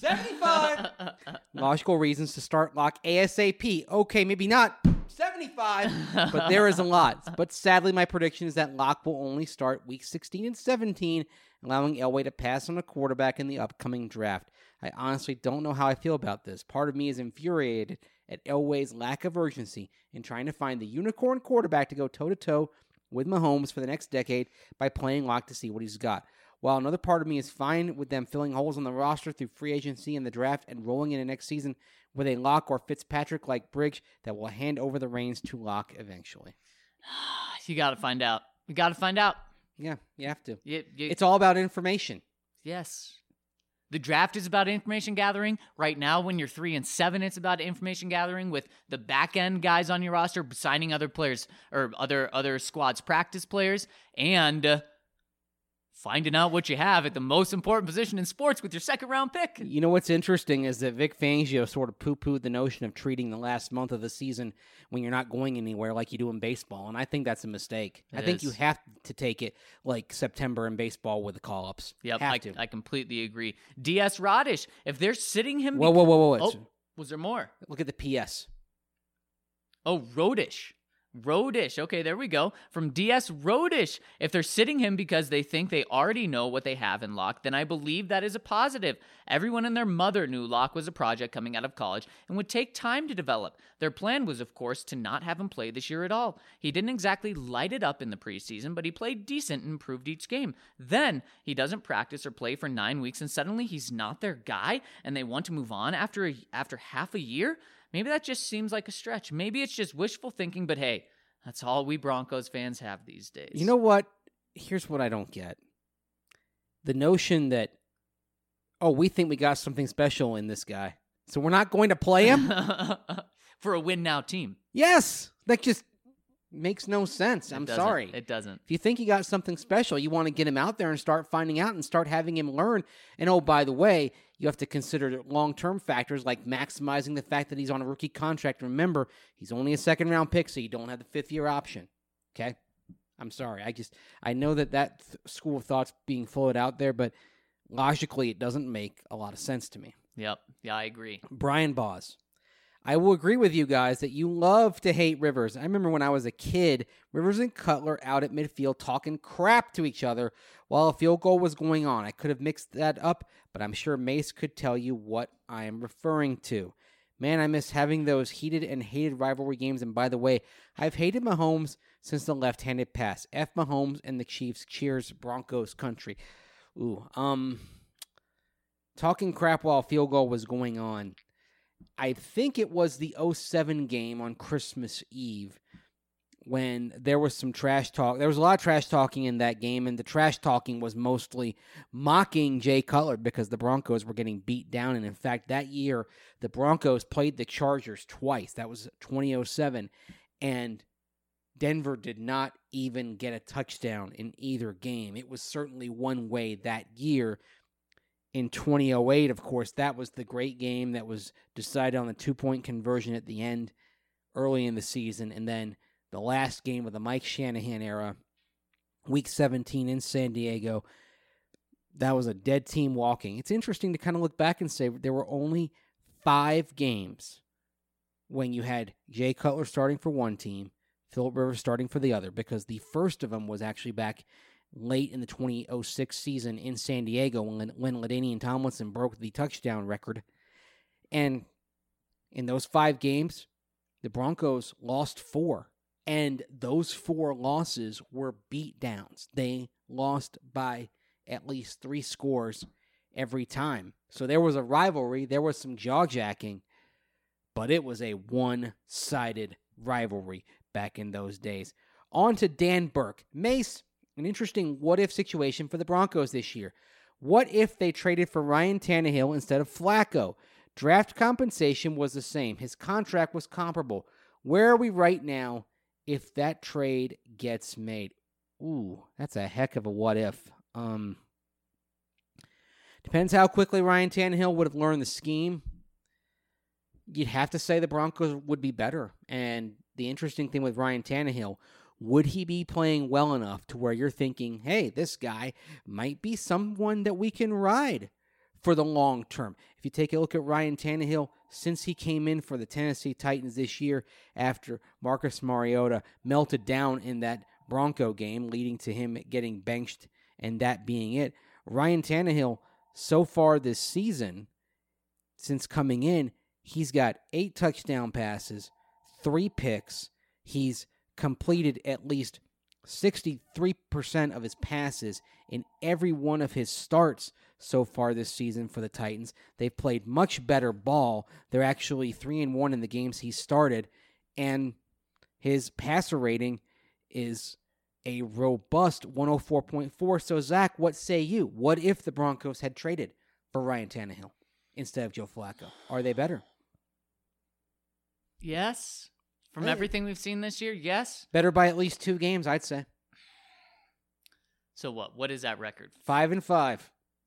75! Logical reasons to start Lock ASAP. Okay, maybe not 75, but there is a lot. But sadly, my prediction is that Lock will only start week 16 and 17, allowing Elway to pass on a quarterback in the upcoming draft. I honestly don't know how I feel about this. Part of me is infuriated at Elway's lack of urgency in trying to find the unicorn quarterback to go toe-to-toe with Mahomes for the next decade by playing Lock to see what he's got. While another part of me is fine with them filling holes on the roster through free agency and the draft and rolling into next season with a Lock or Fitzpatrick-like bridge that will hand over the reins to Lock eventually. You got to find out. You got to find out. Yeah, you have to. It's all about information. Yes. The draft is about information gathering. Right now, when you're 3-7, it's about information gathering with the back end guys on your roster signing other players or other squads' practice players and finding out what you have at the most important position in sports with your second-round pick. You know what's interesting is that Vic Fangio sort of poo-pooed the notion of treating the last month of the season when you're not going anywhere like you do in baseball, and I think that's a mistake. I think you have to take it like September in baseball with the call-ups. Yep, I completely agree. DS Rodish, if they're sitting him... Whoa. Oh, was there more? Look at the PS. Oh, Rodish. Okay, there we go. From DS Rodish. If they're sitting him because they think they already know what they have in Lock, then I believe that is a positive. Everyone and their mother knew Lock was a project coming out of college and would take time to develop. Their plan was, of course, to not have him play this year at all. He didn't exactly light it up in the preseason, but he played decent and improved each game. Then, he doesn't practice or play for 9 weeks, and suddenly he's not their guy, and they want to move on after half a year? Maybe that just seems like a stretch. Maybe it's just wishful thinking, but hey, that's all we Broncos fans have these days. You know what? Here's what I don't get. The notion that, we think we got something special in this guy, so we're not going to play him? For a win-now team. Yes! That just makes no sense. I'm sorry. It doesn't. If you think you got something special, you want to get him out there and start finding out and start having him learn. And by the way, you have to consider long-term factors like maximizing the fact that he's on a rookie contract. Remember, he's only a second-round pick, so you don't have the fifth-year option. Okay? I'm sorry. I know that school of thought's being floated out there, but logically, it doesn't make a lot of sense to me. Yep. Yeah, I agree. Brian Boz. I will agree with you guys that you love to hate Rivers. I remember when I was a kid, Rivers and Cutler out at midfield talking crap to each other while a field goal was going on. I could have mixed that up, but I'm sure Mace could tell you what I am referring to. Man, I miss having those heated and hated rivalry games. And by the way, I've hated Mahomes since the left-handed pass. F Mahomes and the Chiefs. Cheers, Broncos country. Talking crap while a field goal was going on. I think it was the 2007 game on Christmas Eve when there was some trash talk. There was a lot of trash talking in that game, and the trash talking was mostly mocking Jay Cutler because the Broncos were getting beat down. And in fact, that year, the Broncos played the Chargers twice. That was 2007. And Denver did not even get a touchdown in either game. It was certainly one way that year. In 2008, of course, that was the great game that was decided on the 2-point conversion at the end, early in the season. And then the last game of the Mike Shanahan era, Week 17 in San Diego, that was a dead team walking. It's interesting to kind of look back and say there were only 5 games when you had Jay Cutler starting for one team, Philip Rivers starting for the other, because the first of them was actually back late in the 2006 season in San Diego when LaDainian Tomlinson broke the touchdown record. And in those 5 games, the Broncos lost 4. And those 4 losses were beatdowns. They lost by at least 3 scores every time. So there was a rivalry. There was some jaw-jacking. But it was a one-sided rivalry back in those days. On to Dan Burke. Mace, an interesting what-if situation for the Broncos this year. What if they traded for Ryan Tannehill instead of Flacco? Draft compensation was the same. His contract was comparable. Where are we right now if that trade gets made? Ooh, that's a heck of a what-if. Depends how quickly Ryan Tannehill would have learned the scheme. You'd have to say the Broncos would be better. And the interesting thing with Ryan Tannehill, would he be playing well enough to where you're thinking, hey, this guy might be someone that we can ride for the long term? If you take a look at Ryan Tannehill, since he came in for the Tennessee Titans this year after Marcus Mariota melted down in that Bronco game, leading to him getting benched and that being it, Ryan Tannehill, so far this season, since coming in, he's got 8 touchdown passes, 3 picks. He's completed at least 63% of his passes in every one of his starts so far this season for the Titans. They've played much better ball. They're actually 3-1 in the games he started, and his passer rating is a robust 104.4. So, Zach, what say you? What if the Broncos had traded for Ryan Tannehill instead of Joe Flacco? Are they better? Yes. From everything we've seen this year, yes. Better by at least 2 games, I'd say. So what? What is that record? 5-5.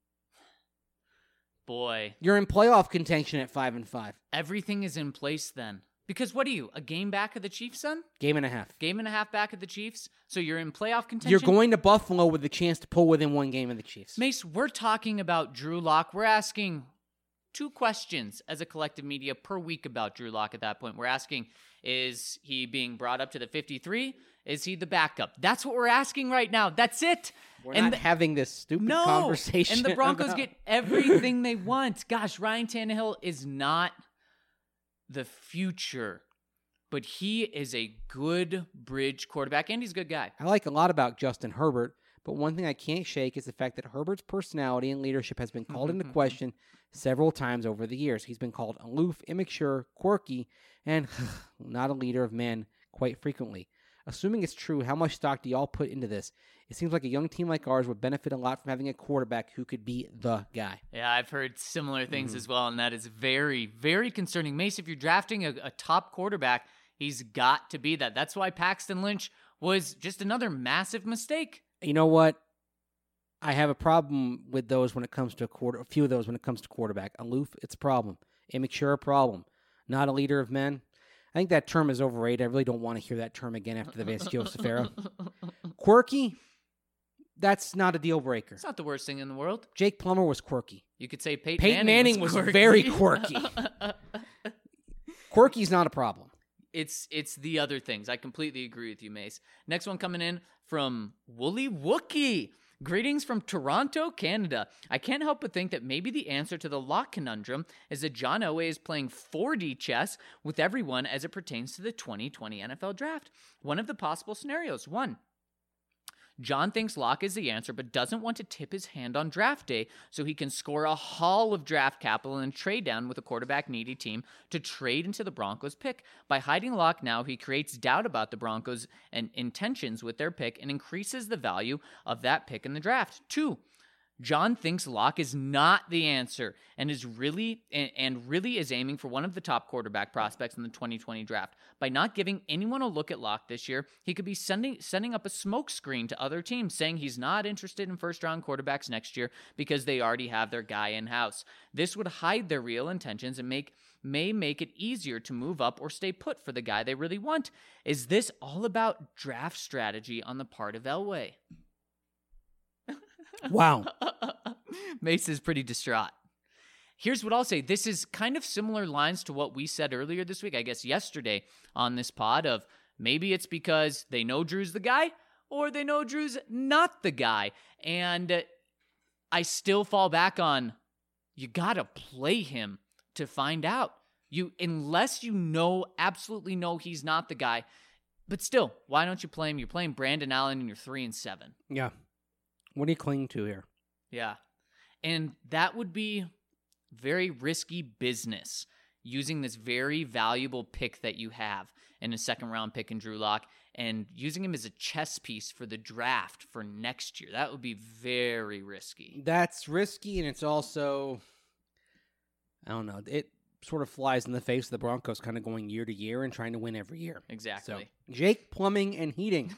Boy. You're in playoff contention at 5-5. Everything is in place then. Because what are you, a game back of the Chiefs, son? Game and a half. Game and a half back of the Chiefs? So you're in playoff contention? You're going to Buffalo with the chance to pull within 1 game of the Chiefs. Mace, we're talking about Drew Lock. We're asking 2 questions as a collective media per week about Drew Lock at that point. We're asking, is he being brought up to the 53? Is he the backup? That's what we're asking right now. That's it. We're not having this stupid conversation. And the Broncos get everything they want. Gosh, Ryan Tannehill is not the future, but he is a good bridge quarterback, and he's a good guy. I like a lot about Justin Herbert, but one thing I can't shake is the fact that Herbert's personality and leadership has been called into question several times over the years. He's been called aloof, immature, quirky, and not a leader of men quite frequently. Assuming it's true, how much stock do y'all put into this? It seems like a young team like ours would benefit a lot from having a quarterback who could be the guy. Yeah, I've heard similar things as well, and that is very, very concerning. Mace, if you're drafting a top quarterback, he's got to be that. That's why Paxton Lynch was just another massive mistake. You know what? I have a problem with those when it comes to a few of those when it comes to quarterback. Aloof, it's a problem. Immature, a problem. Not a leader of men. I think that term is overrated. I really don't want to hear that term again after the Vance Joseph era. Quirky, that's not a deal breaker. It's not the worst thing in the world. Jake Plummer was quirky. You could say Peyton Manning was quirky. very quirky. Quirky's not a problem. It's the other things. I completely agree with you, Mace. Next one coming in from Wooly Wookie. Greetings from Toronto, Canada. I can't help but think that maybe the answer to the Lock conundrum is that John Elway is playing 4D chess with everyone as it pertains to the 2020 NFL Draft. One of the possible scenarios. 1. John thinks Lock is the answer, but doesn't want to tip his hand on draft day so he can score a haul of draft capital and trade down with a quarterback-needy team to trade into the Broncos pick. By hiding Lock now, he creates doubt about the Broncos' and intentions with their pick and increases the value of that pick in the draft. 2. John thinks Lock is not the answer and really is aiming for one of the top quarterback prospects in the 2020 draft. By not giving anyone a look at Lock this year, he could be sending up a smokescreen to other teams saying he's not interested in first-round quarterbacks next year because they already have their guy in-house. This would hide their real intentions and may make it easier to move up or stay put for the guy they really want. Is this all about draft strategy on the part of Elway? Wow. Mace is pretty distraught. Here's what I'll say. This is kind of similar lines to what we said earlier this week, I guess yesterday on this pod, of maybe it's because they know Drew's the guy, or they know Drew's not the guy. And I still fall back on, you got to play him to find out. Unless you absolutely know he's not the guy. But still, why don't you play him? You're playing Brandon Allen and you're 3-7. Yeah. What are you clinging to here? Yeah. And that would be very risky business, using this very valuable pick that you have in a second-round pick in Drew Lock and using him as a chess piece for the draft for next year. That would be very risky. That's risky, and it's also, I don't know, it sort of flies in the face of the Broncos kind of going year to year and trying to win every year. Exactly. So, Jake, plumbing and heating.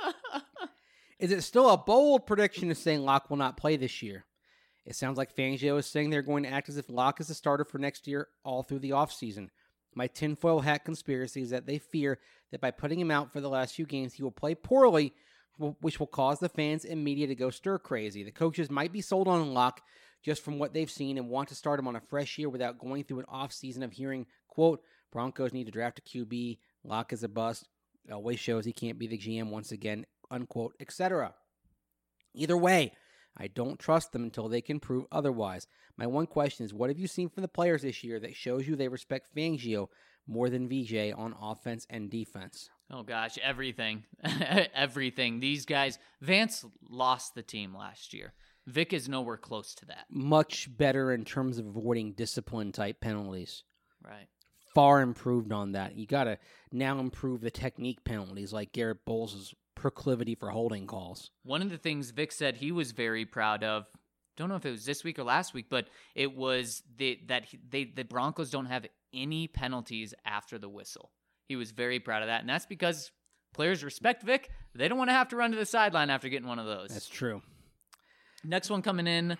Is it still a bold prediction to say Locke will not play this year? It sounds like Fangio is saying they're going to act as if Locke is the starter for next year all through the offseason. My tinfoil hat conspiracy is that they fear that by putting him out for the last few games, he will play poorly, which will cause the fans and media to go stir crazy. The coaches might be sold on Locke just from what they've seen and want to start him on a fresh year without going through an offseason of hearing, quote, Broncos need to draft a QB, Locke is a bust, always shows he can't be the GM once again, unquote, etc. Either way, I don't trust them until they can prove otherwise. My one question is, what have you seen from the players this year that shows you they respect Fangio more than VJ on offense and defense? Oh, gosh, everything. Everything. These guys, Vance lost the team last year. Vic is nowhere close to that. Much better in terms of avoiding discipline-type penalties. Right. Far improved on that. You got to now improve the technique penalties like Garrett Bowles' proclivity for holding calls. One of the things Vic said he was very proud of, don't know if it was this week or last week, but it was that the Broncos don't have any penalties after the whistle. He was very proud of that, and that's because players respect Vic. They don't want to have to run to the sideline after getting one of those. That's true. Next one coming in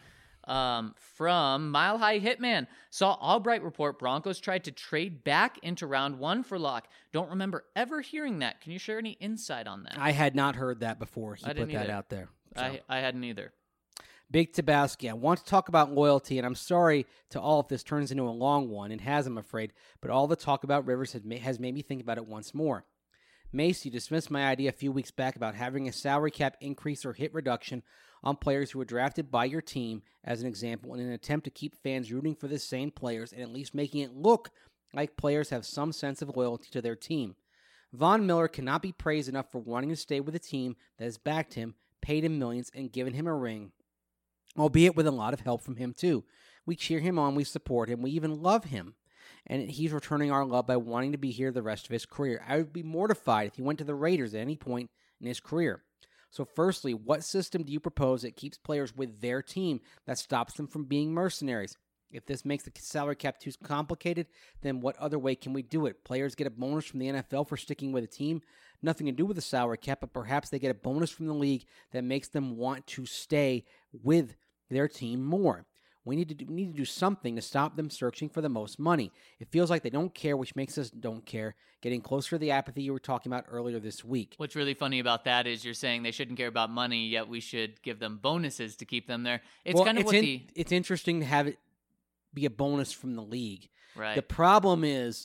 from Mile High Hitman. Saw Albright report Broncos tried to trade back into round 1 for Locke. Don't remember ever hearing that. Can you share any insight on that? I had not heard that before. He I put didn't that either. out there. So. I hadn't either. Big Tabasky, I want to talk about loyalty, and I'm sorry to all if this turns into a long one. It has, I'm afraid, but all the talk about Rivers has made me think about it once more. Mace, you dismissed my idea a few weeks back about having a salary cap increase or hit reduction on players who were drafted by your team, as an example, in an attempt to keep fans rooting for the same players and at least making it look like players have some sense of loyalty to their team. Von Miller cannot be praised enough for wanting to stay with a team that has backed him, paid him millions, and given him a ring, albeit with a lot of help from him too. We cheer him on, we support him, we even love him. And he's returning our love by wanting to be here the rest of his career. I would be mortified if he went to the Raiders at any point in his career. So firstly, what system do you propose that keeps players with their team that stops them from being mercenaries? If this makes the salary cap too complicated, then what other way can we do it? Players get a bonus from the NFL for sticking with a team. Nothing to do with the salary cap, but perhaps they get a bonus from the league that makes them want to stay with their team more. We need to do something to stop them searching for the most money. It feels like they don't care, which makes us don't care, getting closer to the apathy you were talking about earlier this week. What's really funny about that is you're saying they shouldn't care about money, yet we should give them bonuses to keep them there. It's interesting to have it be a bonus from the league. Right. The problem is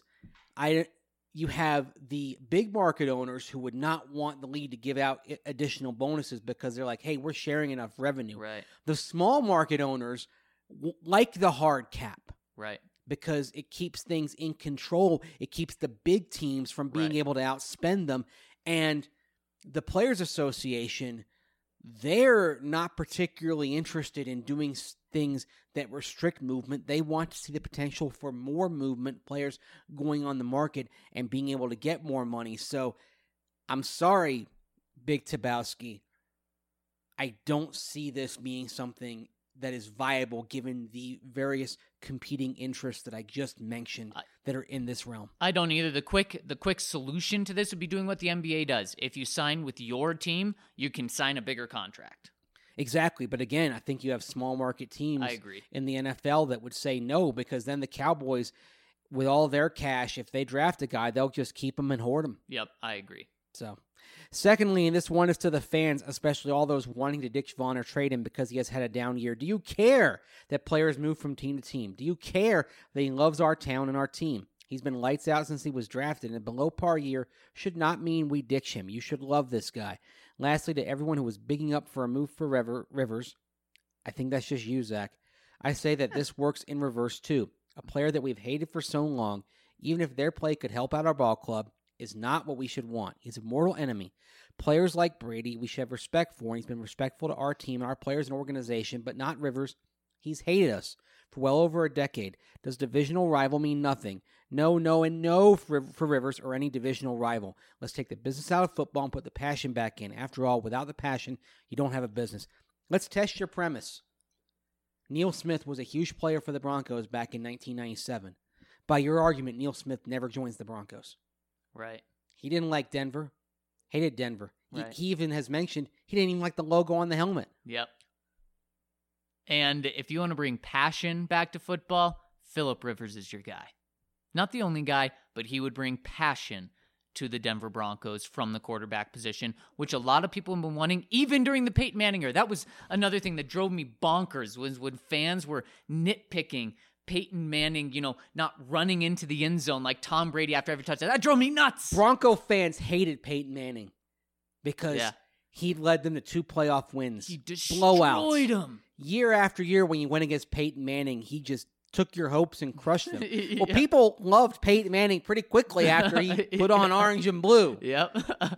you have the big market owners who would not want the league to give out additional bonuses because they're like, hey, we're sharing enough revenue. Right. The small market owners like the hard cap. Right. Because it keeps things in control. It keeps the big teams from being able to outspend them. And the Players Association, they're not particularly interested in doing things that restrict movement. They want to see the potential for more movement, players going on the market and being able to get more money. So I'm sorry, Big Tabowski. I don't see this being something that is viable given the various competing interests that I just mentioned that are in this realm. I don't either. The quick solution to this would be doing what the NBA does. If you sign with your team, you can sign a bigger contract. Exactly. But again, I think you have small market teams I agree. in the NFL that would say no, because then the Cowboys, with all their cash, if they draft a guy, they'll just keep him and hoard him. Yep, I agree. So, secondly, and this one is to the fans, especially all those wanting to ditch Vaughn or trade him because he has had a down year. Do you care that players move from team to team? Do you care that he loves our town and our team? He's been lights out since he was drafted, and a below-par year should not mean we ditch him. You should love this guy. Lastly, to everyone who was bigging up for a move for Rivers, I think that's just you, Zach. I say that this works in reverse, too. A player that we've hated for so long, even if their play could help out our ball club, is not what we should want. He's a mortal enemy. Players like Brady, we should have respect for, and he's been respectful to our team, our players, and organization, but not Rivers. He's hated us for well over a decade. Does divisional rival mean nothing? No, and no for Rivers or any divisional rival. Let's take the business out of football and put the passion back in. After all, without the passion, you don't have a business. Let's test your premise. Neil Smith was a huge player for the Broncos back in 1997. By your argument, Neil Smith never joins the Broncos. Right. He didn't like Denver. Hated Denver. Right. He even has mentioned he didn't even like the logo on the helmet. Yep. And if you want to bring passion back to football, Phillip Rivers is your guy. Not the only guy, but he would bring passion to the Denver Broncos from the quarterback position, which a lot of people have been wanting, even during the Peyton Manning era. That was another thing that drove me bonkers, was when fans were nitpicking Peyton Manning, not running into the end zone like Tom Brady after every touchdown. That drove me nuts. Bronco fans hated Peyton Manning because he led them to 2 playoff wins. He destroyed blowouts. them. Year after year, when you went against Peyton Manning, he just took your hopes and crushed them. Yeah. Well, people loved Peyton Manning pretty quickly after he put on orange and blue. Yep.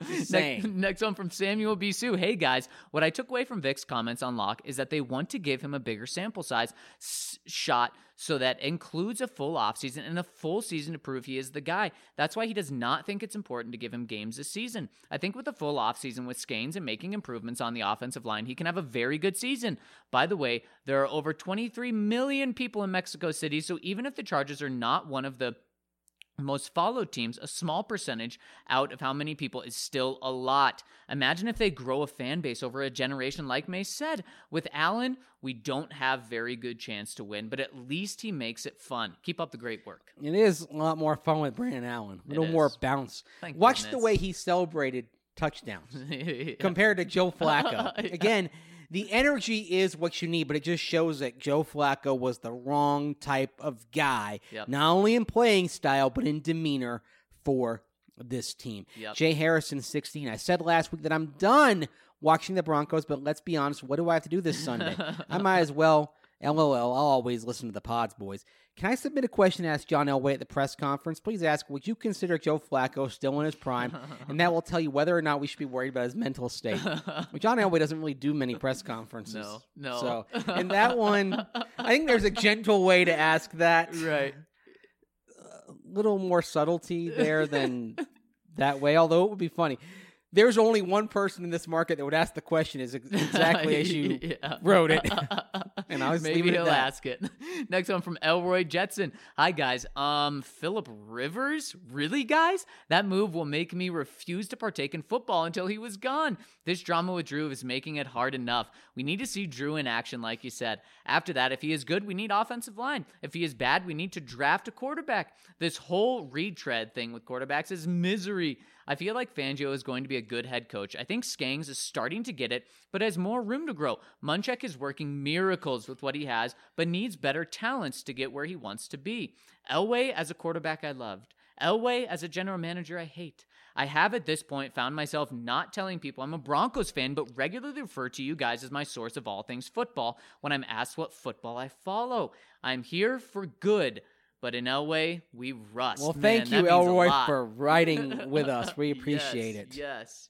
Next one from Samuel B. Sue. Hey, guys. What I took away from Vic's comments on Locke is that they want to give him a bigger sample size shot, so that includes a full offseason and a full season to prove he is the guy. That's why he does not think it's important to give him games this season. I think with a full offseason with Skanes and making improvements on the offensive line, he can have a very good season. By the way, there are over 23 million people in Mexico City, so even if the Chargers are not one of the most followed teams, a small percentage out of how many people is still a lot. Imagine if they grow a fan base over a generation, like Mace said. With Allen, we don't have very good chance to win, but at least he makes it fun. Keep up the great work. It is a lot more fun with Brandon Allen. A little more bounce. Thank Watch goodness. the way he celebrated touchdowns compared to Joe Flacco. Yeah. Again, the energy is what you need, but it just shows that Joe Flacco was the wrong type of guy, not only in playing style, but in demeanor for this team. Jay Harrison, 16. I said last week that I'm done watching the Broncos, but let's be honest, what do I have to do this Sunday? I might as well, LOL, I'll always listen to the pods, boys. Can I submit a question to ask John Elway at the press conference? Please ask, would you consider Joe Flacco still in his prime? And that will tell you whether or not we should be worried about his mental state. Well, John Elway doesn't really do many press conferences. No. So, in that one, I think there's a gentle way to ask that. Right. A little more subtlety there than that way, although it would be funny. There's only one person in this market that would ask the question is exactly as you wrote it. And I was Maybe he'll ask it. Next one from Elroy Jetson. Hi, guys. Phillip Rivers? Really, guys? That move will make me refuse to partake in football until he was gone. This drama with Drew is making it hard enough. We need to see Drew in action, like you said. After that, if he is good, we need offensive line. If he is bad, we need to draft a quarterback. This whole retread thing with quarterbacks is misery. I feel like Fangio is going to be a good head coach. I think Skangs is starting to get it, but has more room to grow. Munchak is working miracles with what he has, but needs better talents to get where he wants to be. Elway as a quarterback I loved. Elway as a general manager I hate. I have at this point found myself not telling people I'm a Broncos fan, but regularly refer to you guys as my source of all things football when I'm asked what football I follow. I'm here for good. But in Elway, we rust. Well, thank you, Elroy, for writing with us. We appreciate it. Yes.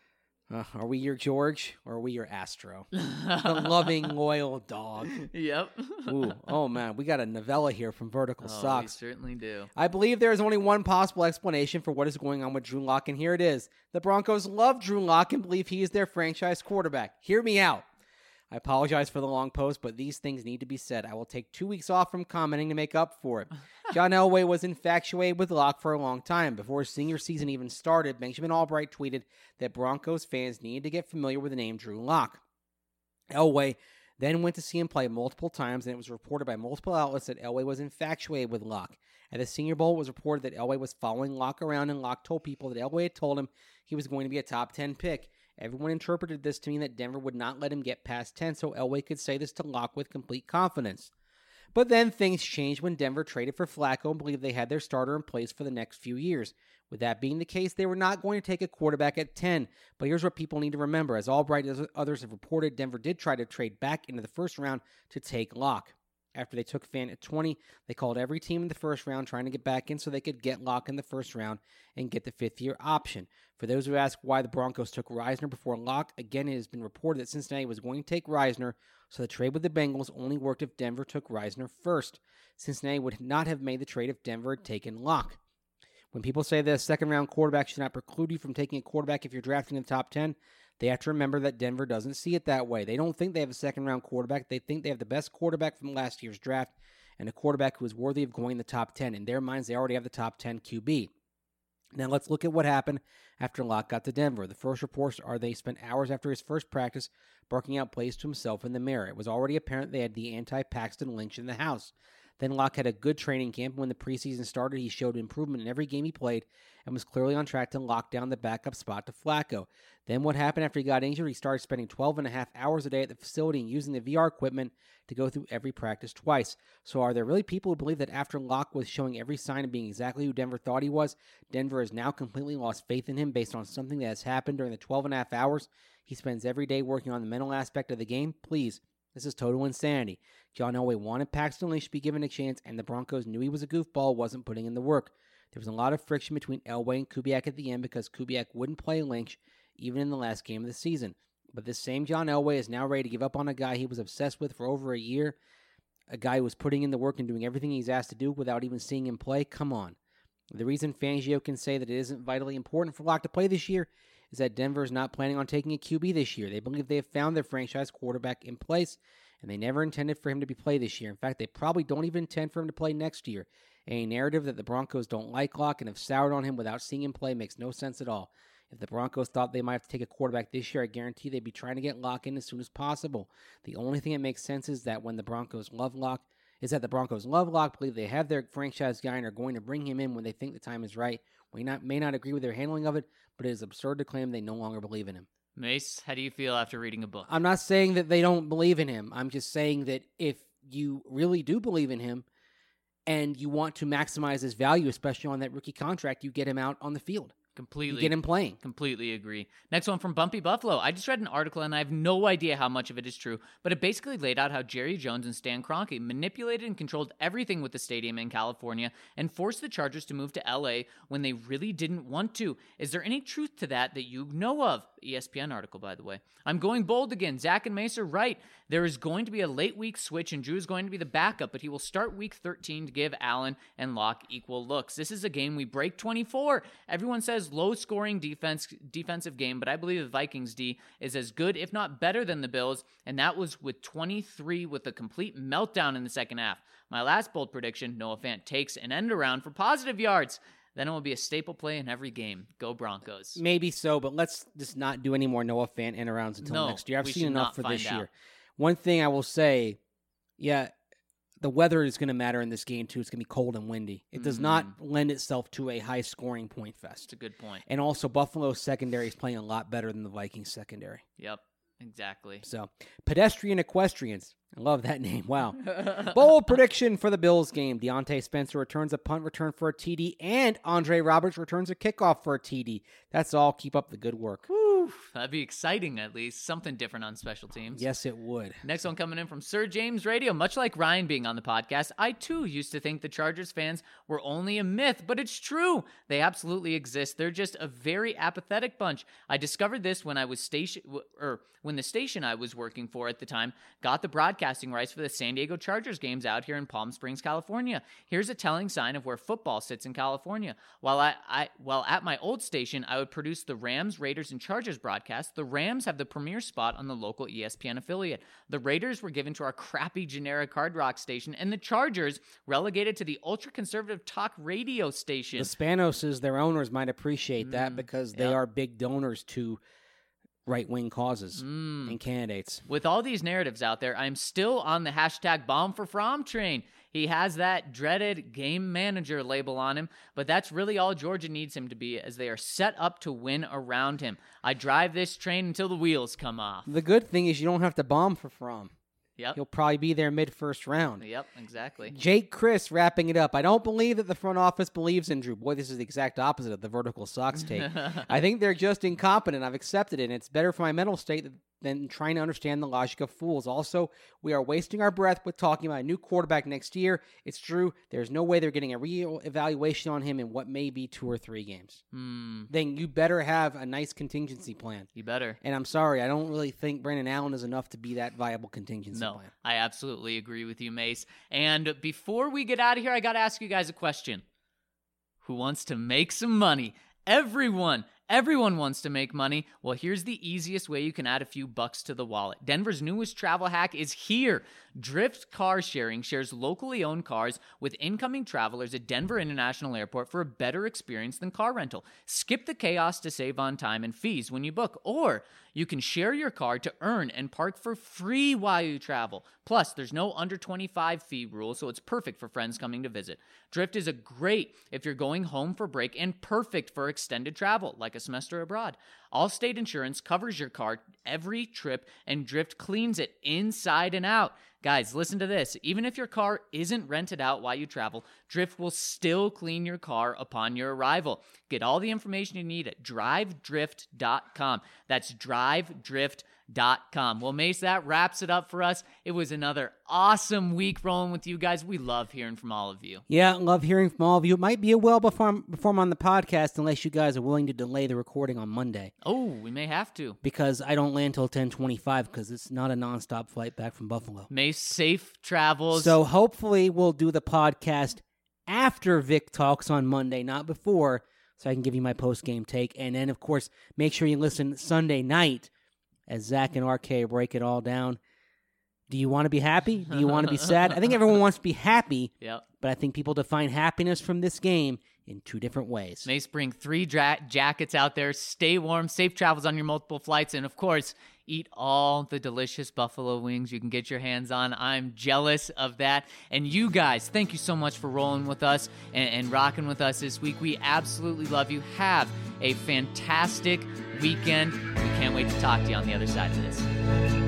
Are we your George or are we your Astro? The loving, loyal dog. Yep. Ooh, oh, man. We got a novella here from Vertical Socks. We certainly do. I believe there is only one possible explanation for what is going on with Drew Lock, and here it is. The Broncos love Drew Lock and believe he is their franchise quarterback. Hear me out. I apologize for the long post, but these things need to be said. I will take 2 weeks off from commenting to make up for it. John Elway was infatuated with Locke for a long time. Before his senior season even started, Benjamin Albright tweeted that Broncos fans needed to get familiar with the name Drew Lock. Elway then went to see him play multiple times, and it was reported by multiple outlets that Elway was infatuated with Locke. At the Senior Bowl, it was reported that Elway was following Locke around, and Locke told people that Elway had told him he was going to be a top 10 pick. Everyone interpreted this to mean that Denver would not let him get past 10, so Elway could say this to Locke with complete confidence. But then things changed when Denver traded for Flacco and believed they had their starter in place for the next few years. With that being the case, they were not going to take a quarterback at 10. But here's what people need to remember. As Albright and others have reported, Denver did try to trade back into the first round to take Locke. After they took Fant at 20, they called every team in the first round trying to get back in so they could get Locke in the first round and get the fifth-year option. For those who ask why the Broncos took Reisner before Locke, again, it has been reported that Cincinnati was going to take Reisner, so the trade with the Bengals only worked if Denver took Reisner first. Cincinnati would not have made the trade if Denver had taken Locke. When people say that a second-round quarterback should not preclude you from taking a quarterback if you're drafting in the top 10, they have to remember that Denver doesn't see it that way. They don't think they have a second-round quarterback. They think they have the best quarterback from last year's draft and a quarterback who is worthy of going in the top 10. In their minds, they already have the top 10 QB. Now let's look at what happened after Locke got to Denver. The first reports are they spent hours after his first practice barking out plays to himself in the mirror. It was already apparent they had the anti-Paxton Lynch in the house. Then Locke had a good training camp. When the preseason started, he showed improvement in every game he played and was clearly on track to lock down the backup spot to Flacco. Then what happened after he got injured? He started spending 12 and a half hours a day at the facility and using the VR equipment to go through every practice twice. So are there really people who believe that after Locke was showing every sign of being exactly who Denver thought he was, Denver has now completely lost faith in him based on something that has happened during the 12 and a half hours he spends every day working on the mental aspect of the game? Please. This is total insanity. John Elway wanted Paxton Lynch to be given a chance, and the Broncos knew he was a goofball, wasn't putting in the work. There was a lot of friction between Elway and Kubiak at the end because Kubiak wouldn't play Lynch even in the last game of the season. But this same John Elway is now ready to give up on a guy he was obsessed with for over a year, a guy who was putting in the work and doing everything he's asked to do without even seeing him play. Come on. The reason Fangio can say that it isn't vitally important for Locke to play this year is that Denver is not planning on taking a QB this year. They believe they have found their franchise quarterback in place, and they never intended for him to be played this year. In fact, they probably don't even intend for him to play next year. A narrative that the Broncos don't like Locke and have soured on him without seeing him play makes no sense at all. If the Broncos thought they might have to take a quarterback this year, I guarantee they'd be trying to get Locke in as soon as possible. The only thing that makes sense is that the Broncos love Locke, believe they have their franchise guy and are going to bring him in when they think the time is right. We may not agree with their handling of it, but it is absurd to claim they no longer believe in him. Mace, how do you feel after reading a book? I'm not saying that they don't believe in him. I'm just saying that if you really do believe in him and you want to maximize his value, especially on that rookie contract, you get him out on the field. Completely. You get him playing. Completely agree. Next one from Bumpy Buffalo. I just read an article and I have no idea how much of it is true, but it basically laid out how Jerry Jones and Stan Kroenke manipulated and controlled everything with the stadium in California and forced the Chargers to move to LA when they really didn't want to. Is there any truth to that you know of? ESPN article, by the way. I'm going bold again. Zach and Mace are right. There is going to be a late week switch and Drew is going to be the backup, but he will start week 13 to give Allen and Locke equal looks. This is a game we break 24. Everyone says low-scoring defensive game, but I believe the Vikings D is as good, if not better, than the Bills, and that was with 23 with a complete meltdown in the second half. My last bold prediction, Noah Fant takes an end around for positive yards. Then it will be a staple play in every game. Go Broncos. Maybe so, but let's just not do any more Noah Fant end arounds until next year. I've seen enough for this year. One thing I will say, the weather is going to matter in this game, too. It's going to be cold and windy. It does not lend itself to a high-scoring point fest. That's a good point. And also, Buffalo's secondary is playing a lot better than the Vikings secondary. Yep, exactly. So, pedestrian equestrians. I love that name. Wow. Bold prediction for the Bills game. Deontay Spencer returns a punt return for a TD, and Andre Roberts returns a kickoff for a TD. That's all. Keep up the good work. Whew, that'd be exciting, at least. Something different on special teams. Yes, it would. Next one coming in from Sir James Radio. Much like Ryan being on the podcast, I too used to think the Chargers fans were only a myth, but it's true. They absolutely exist. They're just a very apathetic bunch. I discovered this when I was when the station I was working for at the time got the broadcasting rights for the San Diego Chargers games out here in Palm Springs, California. Here's a telling sign of where football sits in California. While at my old station, I would produce the Rams, Raiders, and Chargers broadcast. The Rams have the premier spot on the local ESPN affiliate. The Raiders were given to our crappy generic Hard Rock station, and the Chargers relegated to the ultra-conservative talk radio station. The Spanoses, their owners, might appreciate that because they are big donors to right-wing causes and candidates. With all these narratives out there, I'm still on the hashtag Bomb for Fromm train. He has that dreaded game manager label on him, but that's really all Georgia needs him to be, as they are set up to win around him. I drive this train until the wheels come off. The good thing is you don't have to bomb for Fromm. Yep. He'll probably be there mid-first round. Yep, exactly. Jake Chris wrapping it up. I don't believe that the front office believes in Drew. Boy, this is the exact opposite of the Vertical Sox take. I think they're just incompetent. I've accepted it, and it's better for my mental state than trying to understand the logic of fools. Also, we are wasting our breath with talking about a new quarterback next year. It's true. There's no way they're getting a real evaluation on him in what may be 2 or 3 games. Then you better have a nice contingency plan. You better. And I'm sorry, I don't really think Brandon Allen is enough to be that viable contingency plan. No, I absolutely agree with you, Mace. And before we get out of here, I got to ask you guys a question. Who wants to make some money? Everyone wants to make money. Well, here's the easiest way you can add a few bucks to the wallet. Denver's newest travel hack is here. Drift Car Sharing shares locally owned cars with incoming travelers at Denver International Airport for a better experience than car rental. Skip the chaos to save on time and fees when you book, or you can share your car to earn and park for free while you travel. Plus, there's no under 25 fee rule, so it's perfect for friends coming to visit. Drift is a great if you're going home for break and perfect for extended travel, like a semester abroad. Allstate Insurance covers your car every trip, and Drift cleans it inside and out. Guys, listen to this. Even if your car isn't rented out while you travel, Drift will still clean your car upon your arrival. Get all the information you need at drivedrift.com. That's drivedrift.com. Well, Mace, that wraps it up for us. It was another awesome week rolling with you guys. We love hearing from all of you. Yeah, love hearing from all of you. It might be a while before I'm on the podcast unless you guys are willing to delay the recording on Monday. Oh, we may have to. Because I don't land till 10:25 because it's not a nonstop flight back from Buffalo. Mace, safe travels. So hopefully we'll do the podcast after Vic talks on Monday, not before, so I can give you my post-game take. And then, of course, make sure you listen Sunday night as Zach and RK break it all down. Do you want to be happy? Do you want to be sad? I think everyone wants to be happy, but I think people define happiness from this game in 2 different ways. Mace, bring 3 jackets out there. Stay warm. Safe travels on your multiple flights. And, of course, eat all the delicious buffalo wings you can get your hands on. I'm jealous of that. And you guys, thank you so much for rolling with us and rocking with us this week. We absolutely love you. Have a fantastic weekend. We can't wait to talk to you on the other side of this.